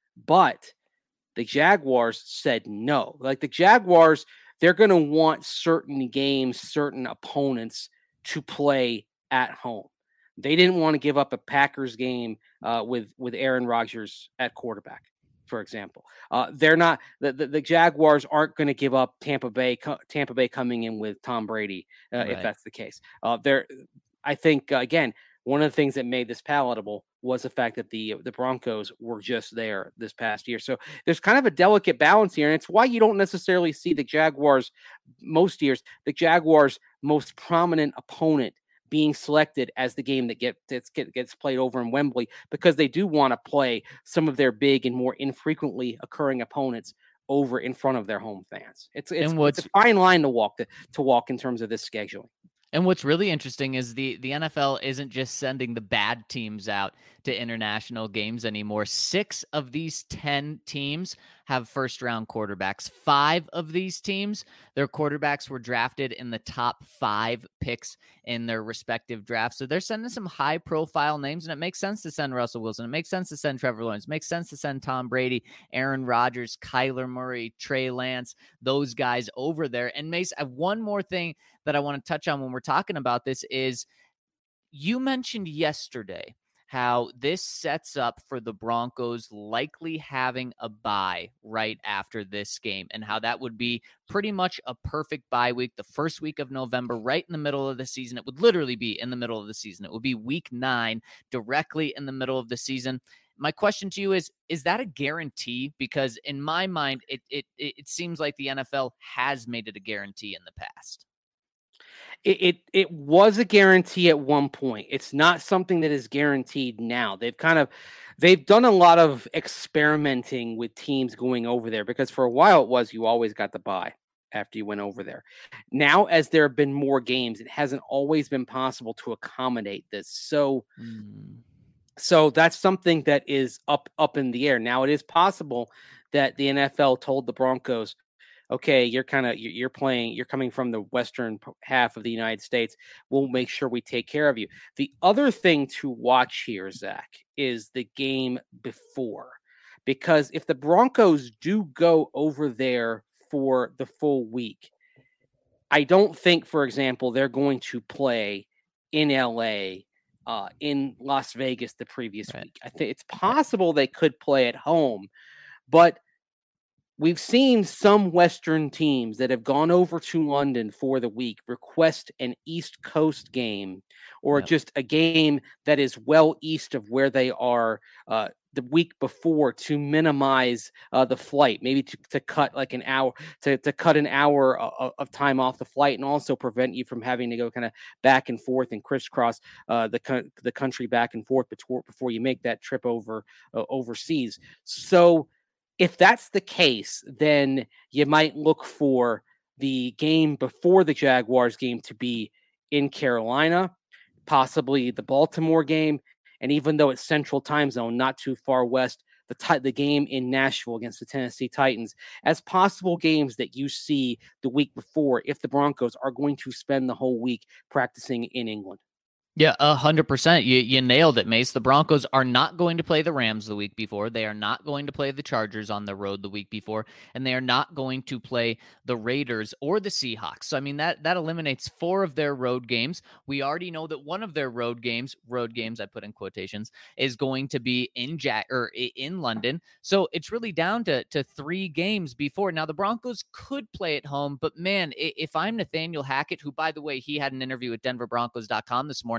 but the Jaguars said no. Like, the Jaguars, they're going to want certain games, certain opponents to play at home. They didn't want to give up a Packers game uh, with with Aaron Rodgers at quarterback, for example. Uh, they're not the, the, the Jaguars aren't going to give up Tampa Bay Tampa Bay coming in with Tom Brady uh, Right. if that's the case. Uh, they're I think uh, again, one of the things that made this palatable was the fact that the the Broncos were just there this past year. So there's kind of a delicate balance here, and it's why you don't necessarily see the Jaguars most years, the Jaguars' most prominent opponent being selected as the game that get, gets, gets played over in Wembley, because they do want to play some of their big and more infrequently occurring opponents over in front of their home fans. It's it's, And what's- it's a fine line to walk to, to walk in terms of this scheduling. And what's really interesting is the, the N F L isn't just sending the bad teams out to international games anymore. Six of these ten teams have first-round quarterbacks. Five of these teams, their quarterbacks were drafted in the top five picks in their respective drafts. So they're sending some high-profile names, and it makes sense to send Russell Wilson. It makes sense to send Trevor Lawrence. It makes sense to send Tom Brady, Aaron Rodgers, Kyler Murray, Trey Lance, those guys over there. And Mace, I have one more thing that I want to touch on when we're talking about this is you mentioned yesterday how this sets up for the Broncos likely having a bye right after this game, and how that would be pretty much a perfect bye week, the first week of November, right in the middle of the season. It would literally be in the middle of the season. It would be week nine, directly in the middle of the season. My question to you is, is that a guarantee? Because in my mind, it it it seems like the N F L has made it a guarantee in the past. It, it it was a guarantee at one point. It's not something that is guaranteed now. They've kind of they've done a lot of experimenting with teams going over there, because for a while it was you always got the bye after you went over there. Now, as there have been more games, it hasn't always been possible to accommodate this. So Mm. so that's something that is up up in the air. Now, it is possible that the N F L told the Broncos, okay, you're kind of you're playing, you're coming from the western half of the United States. We'll make sure we take care of you. The other thing to watch here, Zach, is the game before, because if the Broncos do go over there for the full week, I don't think, for example, they're going to play in L A, uh, in Las Vegas the previous Right. week. I think it's possible they could play at home, but we've seen some Western teams that have gone over to London for the week request an East Coast game, or Yep. just a game that is well east of where they are uh, the week before, to minimize uh, the flight, maybe to, to cut like an hour, to, to cut an hour of, of time off the flight, and also prevent you from having to go kind of back and forth and crisscross uh, the co- the country back and forth before, before you make that trip over uh, overseas. So if that's the case, then you might look for the game before the Jaguars game to be in Carolina, possibly the Baltimore game. And even though it's Central Time Zone, not too far west, the t- the game in Nashville against the Tennessee Titans as possible games that you see the week before if the Broncos are going to spend the whole week practicing in England. Yeah, a hundred percent. You you nailed it, Mace. The Broncos are not going to play the Rams the week before. They are not going to play the Chargers on the road the week before, and they are not going to play the Raiders or the Seahawks. So I mean that that eliminates four of their road games. We already know that one of their road games, road games I put in quotations, is going to be in Jack or in London. So it's really down to to three games before. Now the Broncos could play at home, but man, if I'm Nathaniel Hackett, who by the way he had an interview with Denver Broncos dot com this morning.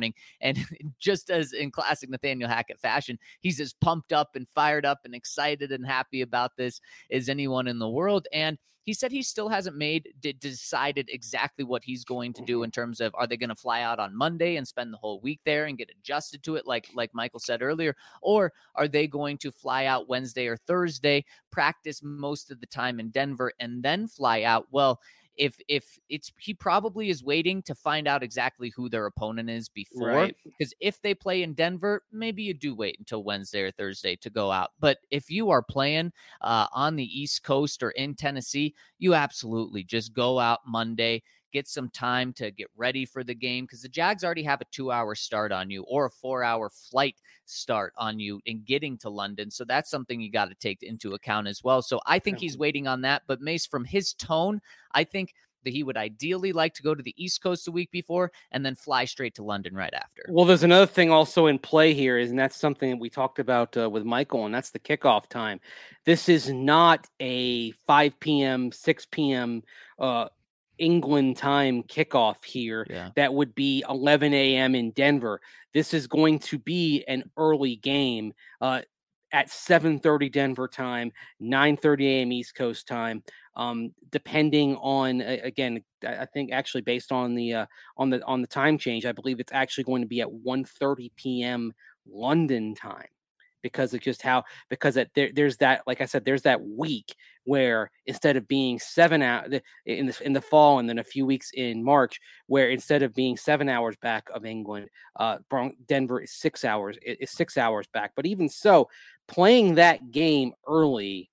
morning. And just as in classic Nathaniel Hackett fashion, he's as pumped up and fired up and excited and happy about this as anyone in the world. And he said he still hasn't made d- decided exactly what he's going to do in terms of, are they going to fly out on Monday and spend the whole week there and get adjusted to it, like like Michael said earlier, or are they going to fly out Wednesday or Thursday, practice most of the time in Denver, and then fly out? Well, if if it's he probably is waiting to find out exactly who their opponent is before, Right. because if they play in Denver, maybe you do wait until Wednesday or Thursday to go out. But if you are playing uh, on the East Coast or in Tennessee, you absolutely just go out Monday, get some time to get ready for the game, because the Jags already have a two-hour start on you or a four-hour flight start on you in getting to London. So that's something you got to take into account as well. So I think he's waiting on that. But Mace, from his tone, I think that he would ideally like to go to the East Coast the week before and then fly straight to London right after. Well, there's another thing also in play here, is, and that's something that we talked about uh, with Michael, and that's the kickoff time. This is not a five p.m., six p.m. Uh, England time kickoff here. Yeah. That would be eleven a.m. in Denver. This is going to be an early game uh, at seven thirty Denver time, nine thirty a.m. East Coast time. Um, depending on, uh, again, I think actually based on the uh, on the on the time change, I believe it's actually going to be at one thirty p.m. London time, because of just how because it, there, there's that, like I said, there's that week where instead of being seven hours in the in the fall and then a few weeks in March, where instead of being seven hours back of England, uh, Denver is six hours is six hours back. But even so, playing that game early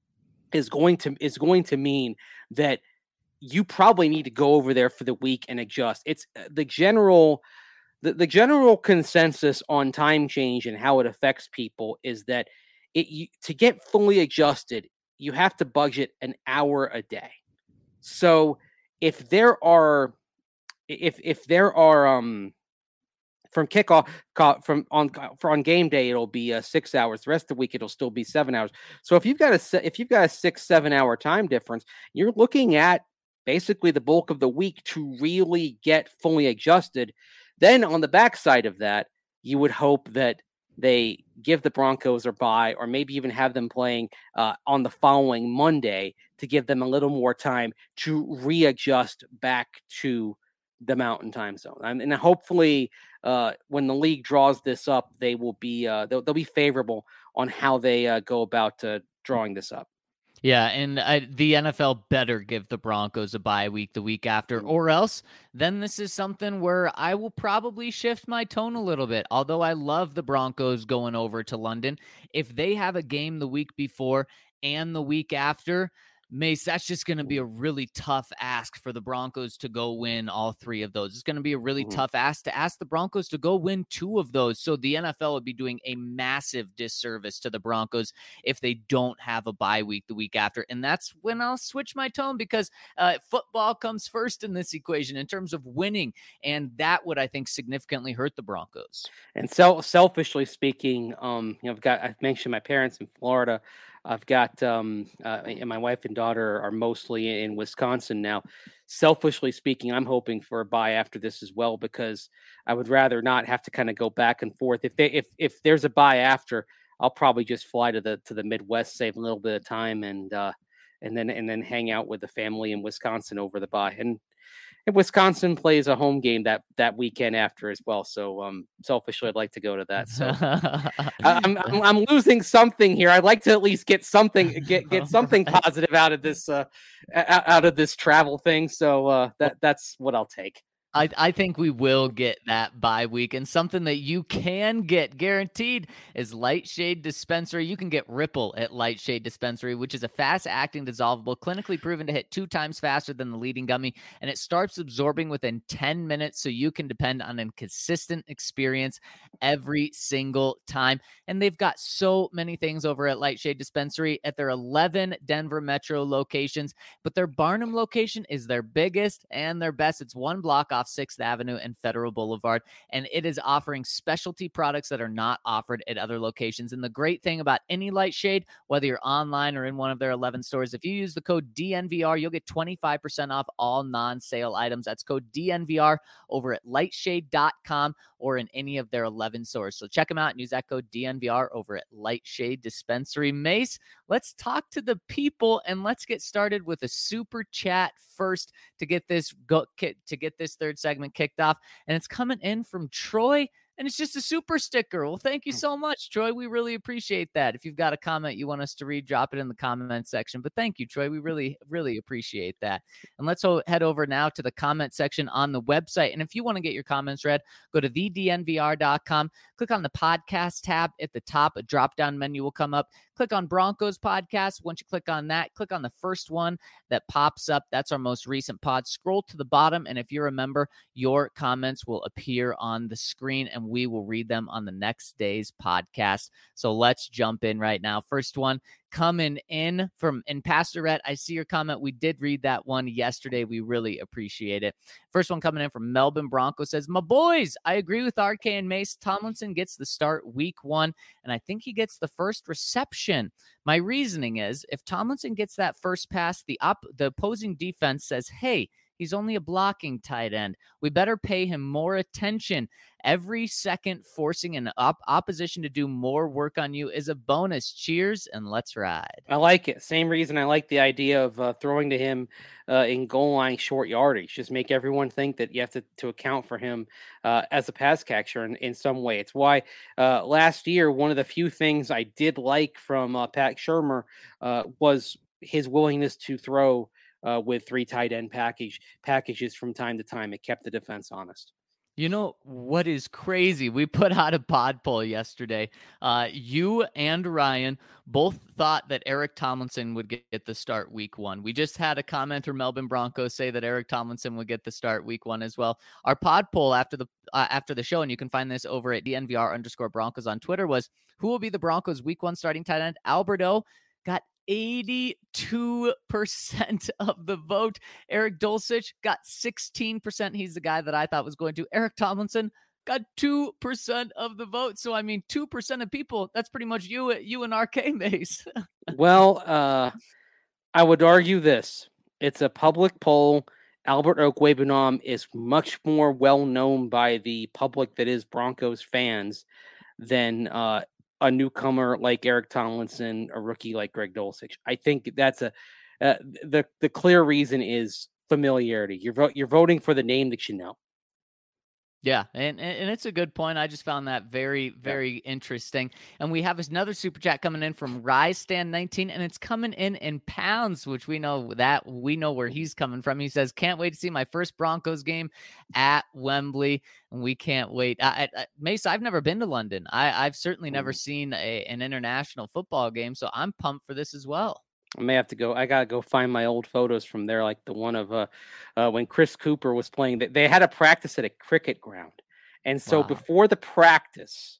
is going to is going to mean that you probably need to go over there for the week and adjust. It's the general the, the general consensus on time change and how it affects people is that it you, to get fully adjusted, you have to budget an hour a day. So if there are if if there are um from kickoff from on for on game day, it'll be uh, six hours. The rest of the week, it'll still be seven hours. So if you've got a if you've got a six seven hour time difference, you're looking at basically the bulk of the week to really get fully adjusted. Then on the backside of that, you would hope that they give the Broncos a bye, or maybe even have them playing uh, on the following Monday to give them a little more time to readjust back to the Mountain Time Zone. And, and hopefully uh, when the league draws this up, they will be uh, they'll, they'll be favorable on how they uh, go about uh, drawing this up. Yeah, and I, the N F L better give the Broncos a bye week the week after, or else then this is something where I will probably shift my tone a little bit. Although I love the Broncos going over to London, if they have a game the week before and the week after, Mace, that's just going to be a really tough ask for the Broncos to go win all three of those. It's going to be a really mm-hmm. tough ask to ask the Broncos to go win two of those. So the N F L would be doing a massive disservice to the Broncos if they don't have a bye week the week after. And that's when I'll switch my tone, because uh, football comes first in this equation in terms of winning. And that would, I think, significantly hurt the Broncos. And so selfishly speaking, um, you know, I've got, I've mentioned my parents in Florida. I've got, um, uh, and my wife and daughter are mostly in Wisconsin now. Selfishly speaking, I'm hoping for a bye after this as well, because I would rather not have to kind of go back and forth. If they, if, if there's a bye after, I'll probably just fly to the, to the Midwest, save a little bit of time, and, uh, and then, and then hang out with the family in Wisconsin over the bye. And, and Wisconsin plays a home game that, that weekend after as well. So um, selfishly, I'd like to go to that. So I'm, I'm I'm losing something here. I'd like to at least get something get get something positive out of this uh, out of this travel thing. So uh, that that's what I'll take. I, I think we will get that bye week, and something that you can get guaranteed is Lightshade Dispensary. You can get Ripple at Lightshade Dispensary, which is a fast-acting dissolvable, clinically proven to hit two times faster than the leading gummy, and it starts absorbing within ten minutes, so you can depend on a consistent experience every single time. And they've got so many things over at Lightshade Dispensary at their eleven Denver metro locations, but their Barnum location is their biggest and their best. It's one block off off sixth Avenue and Federal Boulevard, and it is offering specialty products that are not offered at other locations. And the great thing about any Lightshade, whether you're online or in one of their eleven stores, if you use the code D N V R, you'll get twenty-five percent off all non-sale items. That's code D N V R over at lightshade dot com or in any of their eleven stores. So check them out and use that code D N V R over at Lightshade Dispensary. Mace, let's talk to the people and let's get started with a super chat first to get this go to get this third segment kicked off. And it's coming in from Troy. And it's just a super sticker. Well, thank you so much, Troy. We really appreciate that. If you've got a comment you want us to read, drop it in the comment section. But thank you, Troy. We really, really appreciate that. And let's ho- head over now to the comment section on the website. And if you want to get your comments read, go to the D N V R dot com. Click on the podcast tab at the top. A drop-down menu will come up. Click on Broncos podcast. Once you click on that, click on the first one that pops up. That's our most recent pod. Scroll to the bottom, and if you're a member, your comments will appear on the screen, and we will read them on the next day's podcast. So let's jump in right now. First one coming in from in Pastorette. I see your comment. We did read that one yesterday. We really appreciate it. First one coming in from Melbourne Bronco says, my boys, I agree with R K and Mace. Tomlinson gets the start week one, and I think he gets the first reception. My reasoning is if Tomlinson gets that first pass, the op- the opposing defense says, hey, he's only a blocking tight end. We better pay him more attention. Every second forcing an op- opposition to do more work on you is a bonus. Cheers, and let's ride. I like it. Same reason I like the idea of uh, throwing to him uh, in goal line short yardage. Just make everyone think that you have to, to account for him uh, as a pass catcher in, in some way. It's why uh, last year, one of the few things I did like from uh, Pat Shurmur uh, was his willingness to throw Uh, with three tight end package packages from time to time. It kept the defense honest. You know what is crazy? We put out a pod poll yesterday. Uh, you and Ryan both thought that Eric Tomlinson would get, get the start week one. We just had a commenter, Melbourne Broncos, say that Eric Tomlinson would get the start week one as well. Our pod poll after the uh, after the show, and you can find this over at D N V R underscore Broncos on Twitter, was who will be the Broncos week one starting tight end? Alberto got eighty-two percent of the vote. Eric Dulcich got sixteen percent. He's the guy that I thought was going to. Eric Tomlinson got two percent of the vote. So, I mean, two percent of people, that's pretty much you, you and R K Mace. Well, uh, I would argue this. It's a public poll. Albert Okwuegbunam is much more well-known by the public that is Broncos fans than uh, a newcomer like Eric Tomlinson, a rookie like Greg Dulcich. I think that's a uh, the the clear reason is familiarity. You're vo- you're voting for the name that you know. Yeah, and, and it's a good point. I just found that very, very yeah. interesting. And we have another super chat coming in from Rise Stand nineteen, and it's coming in in pounds, which we know that we know where he's coming from. He says, "Can't wait to see my first Broncos game at Wembley, and we can't wait." I, I, Mace, I've never been to London. I, I've certainly never seen a, an international football game, so I'm pumped for this as well. I may have to go. I gotta go find my old photos from there, like the one of uh, uh, when Chris Cooper was playing. They had a practice at a cricket ground, and so wow. before the practice,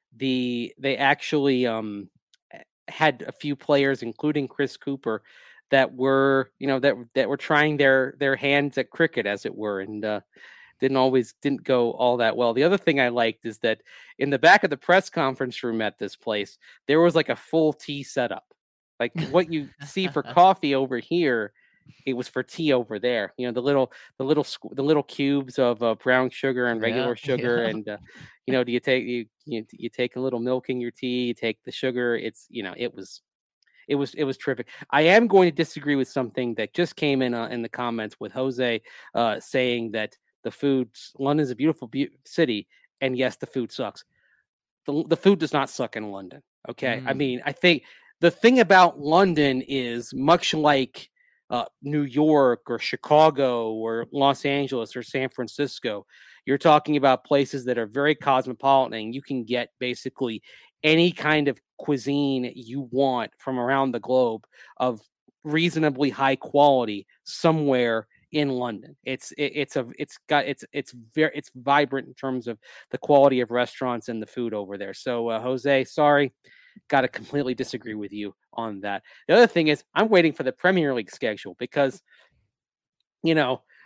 the they actually um, had a few players, including Chris Cooper, that were you know that that were trying their their hands at cricket, as it were, and uh, didn't always didn't go all that well. The other thing I liked is that in the back of the press conference room at this place, there was like a full tea setup. Like what you see for coffee over here, it was for tea over there. You know, the little, the little, the little cubes of uh, brown sugar and regular yeah, sugar, yeah. and uh, you know, do you take you, you you take a little milk in your tea? You take the sugar. It's you know, it was, it was, it was terrific. I am going to disagree with something that just came in uh, in the comments with Jose uh, saying that the food, London is a beautiful be- city, and yes, the food sucks. The the food does not suck in London. Okay, mm. I mean, I think. The thing about London is much like uh, New York or Chicago or Los Angeles or San Francisco. You're talking about places that are very cosmopolitan, and you can get basically any kind of cuisine you want from around the globe of reasonably high quality somewhere in London. It's it, it's a it's got it's it's very it's vibrant in terms of the quality of restaurants and the food over there. So uh, Jose, sorry. Got to completely disagree with you on that. The other thing is I'm waiting for the Premier League schedule because, you know,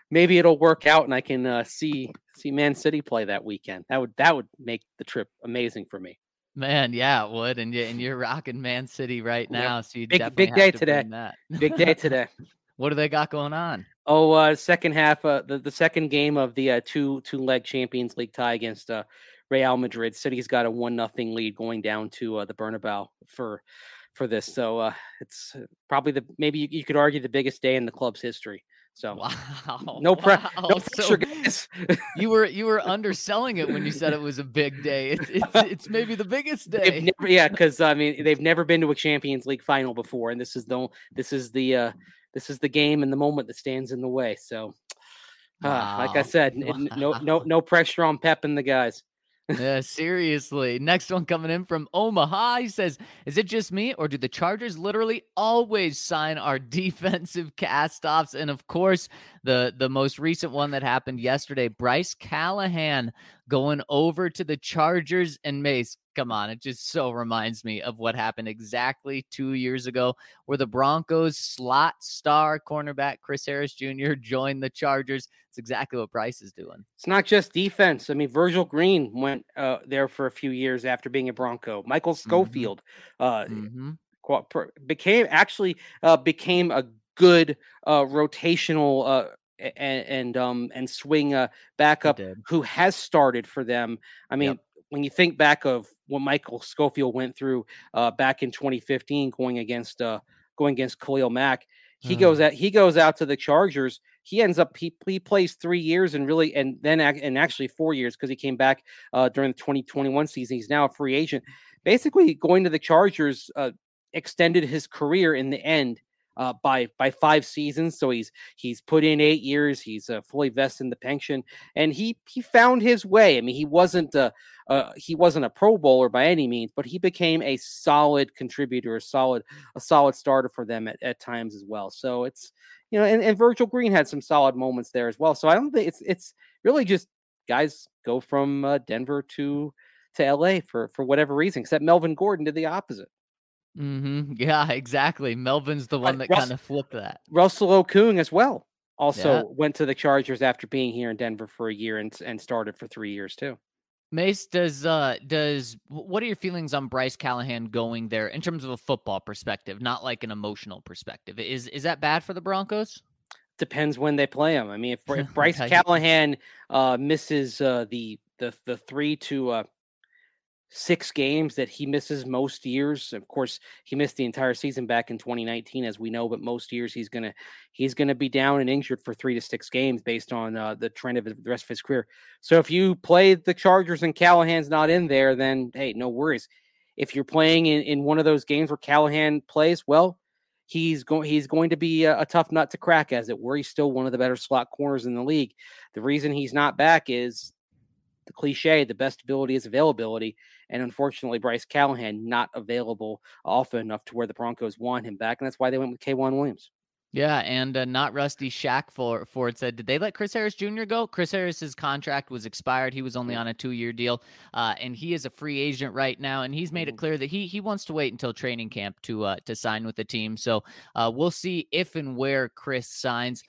maybe it'll work out and I can uh, see see Man City play that weekend. That would that would make the trip amazing for me. Man, yeah, it would. And, you, and you're rocking Man City right now. Yep. So you Big, definitely big have day to today. bring that. Big day today. What do they got going on? Oh, uh, second half, uh, the, the second game of the uh, two two leg Champions League tie against uh, Real Madrid. City's got a one nothing lead going down to uh, the Bernabeu for for this. So uh, it's probably the maybe you, you could argue the biggest day in the club's history. So wow, no, pre- wow. no so pressure, guys. you were you were underselling it when you said it was a big day. It's it's, it's maybe the biggest day. Never, yeah, because I mean they've never been to a Champions League final before, and this is the this is the uh, this is the game and the moment that stands in the way. So, uh, wow. like I said, wow. no no no pressure on Pep and the guys. Yeah, seriously. Next one coming in from Omaha. He says, is it just me or do the Chargers literally always sign our defensive cast-offs? And of course, the, the most recent one that happened yesterday, Bryce Callahan going over to the Chargers. And Mace, come on, it just so reminds me of what happened exactly two years ago where the Broncos slot star cornerback Chris Harris Junior joined the Chargers. It's exactly what Bryce is doing. It's not just defense. I mean, Virgil Green went uh, there for a few years after being a Bronco. Michael Schofield mm-hmm. uh, mm-hmm. became actually uh, became a good uh, rotational uh, and and um and swing uh, backup who has started for them. I mean, yep. when you think back of what Michael Schofield went through uh, back in twenty fifteen, going against uh, going against Khalil Mack, he mm. goes out. He goes out to the Chargers. He ends up he, he plays three years and really and then and actually four years because he came back uh, during the twenty twenty-one season. He's now a free agent. Basically, going to the Chargers uh, extended his career in the end. Uh, by by five seasons, so he's he's put in eight years. He's uh, fully vested in the pension, and he he found his way. I mean, he wasn't a uh, he wasn't a Pro Bowler by any means, but he became a solid contributor, a solid a solid starter for them at, at times as well. So it's you know, and, and Virgil Green had some solid moments there as well. So I don't think it's it's really just guys go from uh, Denver to to L A for for whatever reason, except Melvin Gordon did the opposite. Mm-hmm. Yeah, exactly. Melvin's the one that Russ, kind of flipped that. Russell Okung as well also yeah. went to the Chargers after being here in Denver for a year and and started for three years too. Mace, does uh does what are your feelings on Bryce Callahan going there in terms of a football perspective, not like an emotional perspective? Is is that bad for the Broncos? Depends when they play him. I mean, if, if Bryce Callahan uh, misses uh, the the the three to uh, six games that he misses most years. Of course, he missed the entire season back in twenty nineteen, as we know, but most years he's gonna he's gonna be down and injured for three to six games based on uh, the trend of the rest of his career. So if you play the Chargers and Callahan's not in there, then hey, no worries. If you're playing in, in one of those games where Callahan plays, well, he's going he's going to be a, a tough nut to crack, as it were. He's still one of the better slot corners in the league. The reason he's not back is the cliche, the best ability is availability. And unfortunately, Bryce Callahan not available often enough to where the Broncos want him back. And that's why they went with K'Waun Williams. Yeah, and uh, not Rusty Shack for Ford said, did they let Chris Harris Junior go? Chris Harris's contract was expired. He was only on a two-year deal, uh, and he is a free agent right now. And he's made it clear that he he wants to wait until training camp to uh, to sign with the team. So uh, we'll see if and where Chris signs.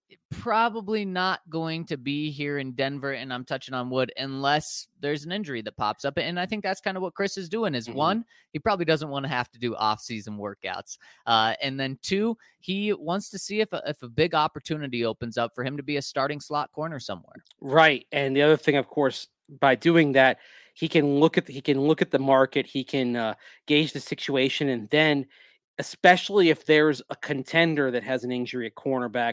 Probably not going to be here in Denver, and I'm touching on wood, unless there's an injury that pops up. And I think that's kind of what Chris is doing is mm-hmm. one, he probably doesn't want to have to do off-season workouts. Uh, and then two, he wants to see if a, if a big opportunity opens up for him to be a starting slot corner somewhere. Right. And the other thing, of course, by doing that, he can look at the, he can look at the market, he can uh, gauge the situation, and then especially if there's a contender that has an injury at cornerback,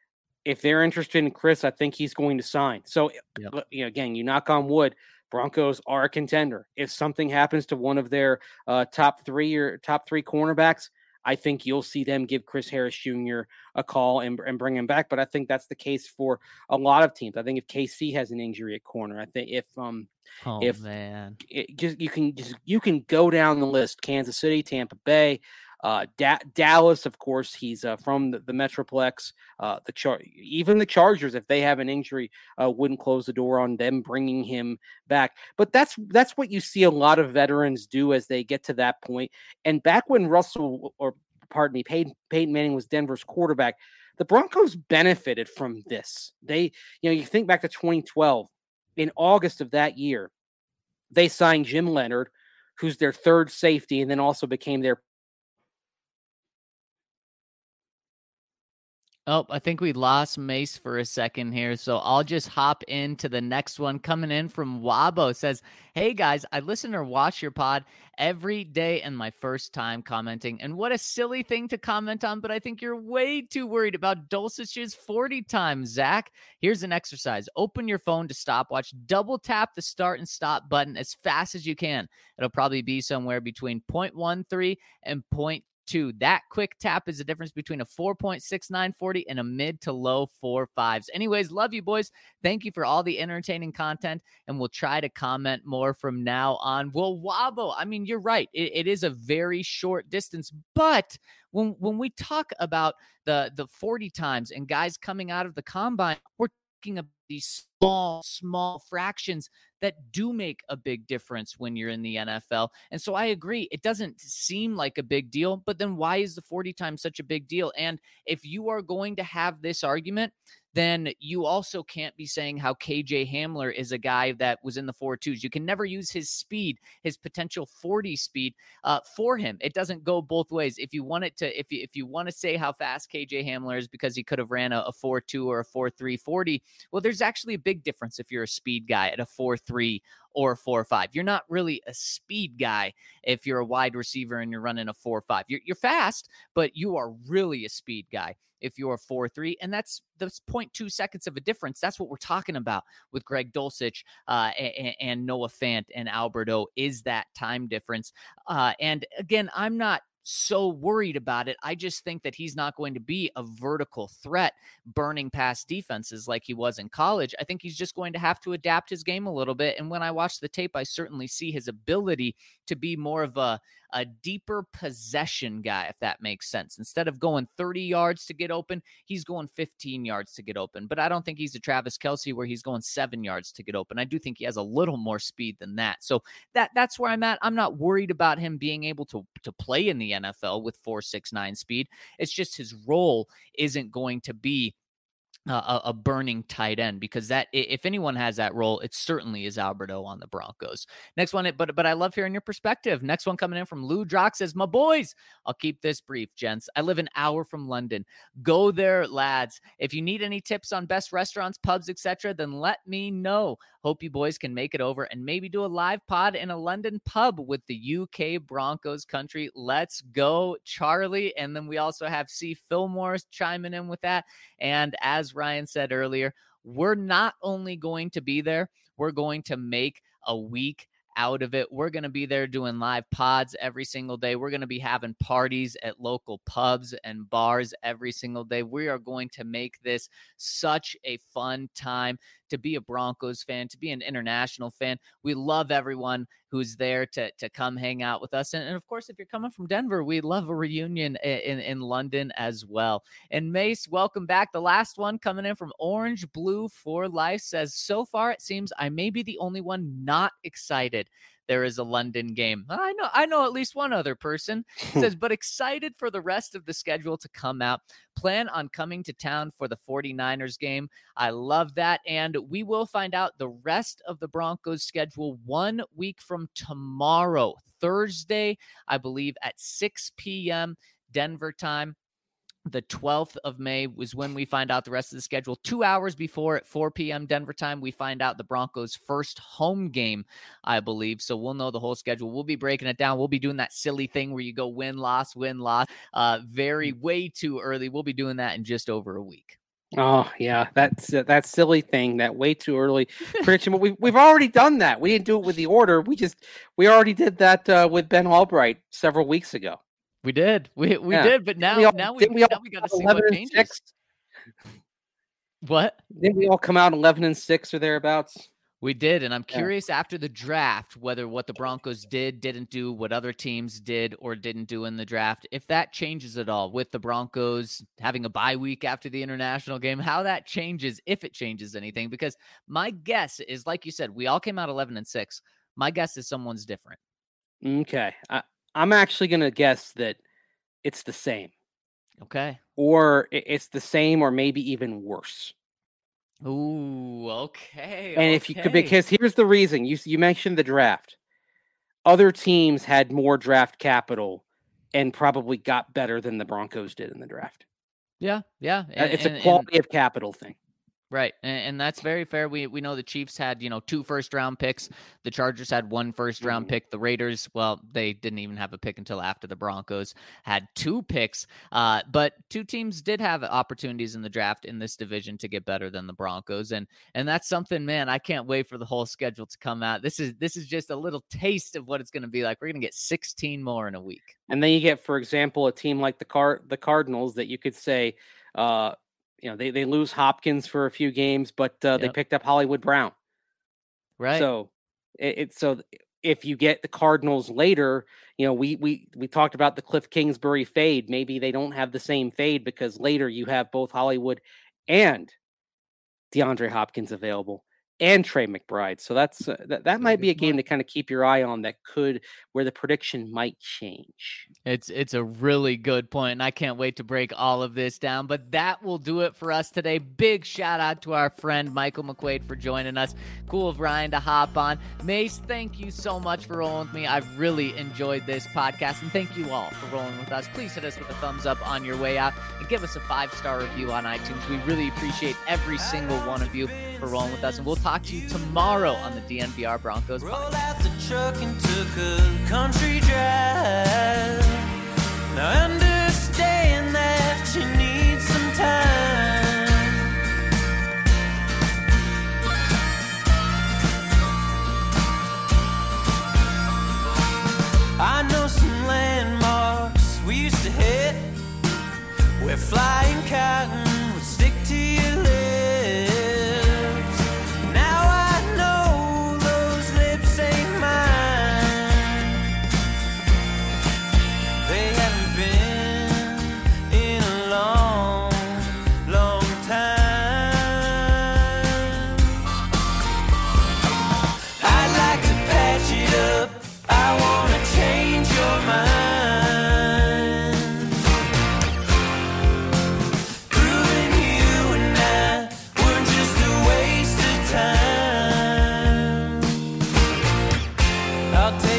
if they're interested in Chris, I think he's going to sign. So, yep. you know, again, you knock on wood, Broncos are a contender. If something happens to one of their uh, top three or top three cornerbacks, I think you'll see them give Chris Harris Junior a call and, and bring him back. But I think that's the case for a lot of teams. I think if K C has an injury at corner, I think if um oh, if man, it, just you can just you can go down the list: Kansas City, Tampa Bay. Uh, da- Dallas, of course, he's uh, from the, the Metroplex. Uh, the Char- even the Chargers, if they have an injury, uh, wouldn't close the door on them bringing him back. But that's that's what you see a lot of veterans do as they get to that point. And back when Russell or pardon me, Peyton, Peyton Manning was Denver's quarterback. The Broncos benefited from this. They, you know, you think back to twenty twelve, in August of that year, they signed Jim Leonard, who's their third safety, and then also became their. Oh, I think we lost Mace for a second here, so I'll just hop into the next one. Coming in from Wabo, says, hey guys, I listen or watch your pod every day and my first time commenting. And what a silly thing to comment on, but I think you're way too worried about Dulcich's forty times, Zach. Here's an exercise. Open your phone to stopwatch, double tap the start and stop button as fast as you can. It'll probably be somewhere between zero point one three and zero point two. That quick tap is the difference between a four point six nine forty and a mid to low four fives. Anyways, love you boys. Thank you for all the entertaining content, and we'll try to comment more from now on. Well, Wabo, I mean, you're right. It, it is a very short distance, but when when we talk about the the forty times and guys coming out of the combine, we're talking about these small, small fractions that do make a big difference when you're in the N F L. And so I agree, it doesn't seem like a big deal, but then why is the forty times such a big deal? And if you are going to have this argument, then you also can't be saying how K J Hamler is a guy that was in the four twos. You can never use his speed, his potential forty speed uh, for him. It doesn't go both ways. If you want it to, if you, if you want to say how fast K J Hamler is because he could have ran a, a four two or a four three forty, well, there's actually a big difference if you're a speed guy at a four three or a four five. You're not really a speed guy if you're a wide receiver and you're running a four five. You're, you're fast, but you are really a speed guy if you're a four three, and that's that's zero point two seconds of a difference. That's what we're talking about with Greg Dulcich uh, and, and Noah Fant and Alberto, is that time difference. Uh, and again, I'm not so worried about it. I just think that he's not going to be a vertical threat burning past defenses like he was in college. I think he's just going to have to adapt his game a little bit. And when I watch the tape, I certainly see his ability to be more of a, a deeper possession guy, if that makes sense. Instead of going thirty yards to get open, he's going fifteen yards to get open. But I don't think he's a Travis Kelce where he's going seven yards to get open. I do think he has a little more speed than that. So that that's where I'm at. I'm not worried about him being able to, to play in the N F L with four six nine speed. It's just his role isn't going to be Uh, a, a burning tight end, because that, if anyone has that role, it certainly is Alberto on the Broncos. Next one, but but I love hearing your perspective. Next one coming in from Lou Drock says, my boys, I'll keep this brief, gents. I live an hour from London. Go there, lads. If you need any tips on best restaurants, pubs, et cetera, then let me know. Hope you boys can make it over and maybe do a live pod in a London pub with the U K Broncos country. Let's go, Charlie. And then we also have C. Fillmore chiming in with that. And as Ryan said earlier, we're not only going to be there, we're going to make a week out of it. We're going to be there doing live pods every single day. We're going to be having parties at local pubs and bars every single day. We are going to make this such a fun time to be a Broncos fan, to be an international fan. We love everyone who's there to, to come hang out with us. And, and of course, if you're coming from Denver, we love a reunion in, in London as well. And Mace, welcome back. The last one coming in from Orange Blue for Life says, so far it seems I may be the only one not excited there is a London game. I know, I know at least one other person. Says, but excited for the rest of the schedule to come out. Plan on coming to town for the forty-niners game. I love that. And we will find out the rest of the Broncos schedule one week from tomorrow, Thursday, I believe at six p.m. Denver time. The twelfth of May was when we find out the rest of the schedule. Two hours before at four p.m. Denver time, we find out the Broncos' first home game, I believe. So we'll know the whole schedule. We'll be breaking it down. We'll be doing that silly thing where you go win, loss, win, loss. Uh, very, way too early. We'll be doing that in just over a week. Oh, yeah, that's uh, that silly thing, that way too early prediction. But we've, we've already done that. We didn't do it with the order. We just, we already did that uh, with Ben Albright several weeks ago. We did. We we yeah. did, but now we all, now we, we, all now we got to see what changes. Six? What? Didn't we all come out eleven and six or thereabouts? We did, and I'm curious yeah. after the draft whether what the Broncos did, didn't do, what other teams did or didn't do in the draft, if that changes at all with the Broncos having a bye week after the international game, how that changes, if it changes anything. Because my guess is, like you said, we all came out eleven and six. My guess is someone's different. Okay. I, I'm actually going to guess that it's the same. Okay. Or it's the same or maybe even worse. Ooh, okay. And okay. if you could, because here's the reason. You you mentioned the draft. Other teams had more draft capital and probably got better than the Broncos did in the draft. Yeah, yeah. And, it's and, a quality and, of capital thing. Right. And, and that's very fair. We we know the Chiefs had, you know, two first round picks. The Chargers had one first round mm-hmm. pick. The Raiders, well, they didn't even have a pick until after the Broncos had two picks. Uh, but two teams did have opportunities in the draft in this division to get better than the Broncos. And and that's something, man, I can't wait for the whole schedule to come out. This is this is just a little taste of what it's going to be like. We're going to get sixteen more in a week. And then you get, for example, a team like the Car the Cardinals that you could say, uh, you know, they, they lose Hopkins for a few games, but uh, yep. they picked up Hollywood Brown. Right. So it, it's so if you get the Cardinals later, you know, we we we talked about the Cliff Kingsbury fade. Maybe they don't have the same fade because later you have both Hollywood and DeAndre Hopkins available and Trey McBride. So that's uh, that, that might be a game to kind of keep your eye on that could where the prediction might change. It's it's a really good point, and I can't wait to break all of this down. But that will do it for us today. Big shout out to our friend Michael McQuaid for joining us. Cool of Ryan to hop on. Mace, thank you so much for rolling with me. I've really enjoyed this podcast, and thank you all for rolling with us. Please hit us with a thumbs up on your way out and give us a five-star review on iTunes. We really appreciate every single one of you for rolling with us, and we'll talk to you tomorrow on the D N V R Broncos podcast. Rolled out the truck and took a country drive. Now understand that you need some time. I know some landmarks we used to hit where flying cotton would stick to your lips. I'll take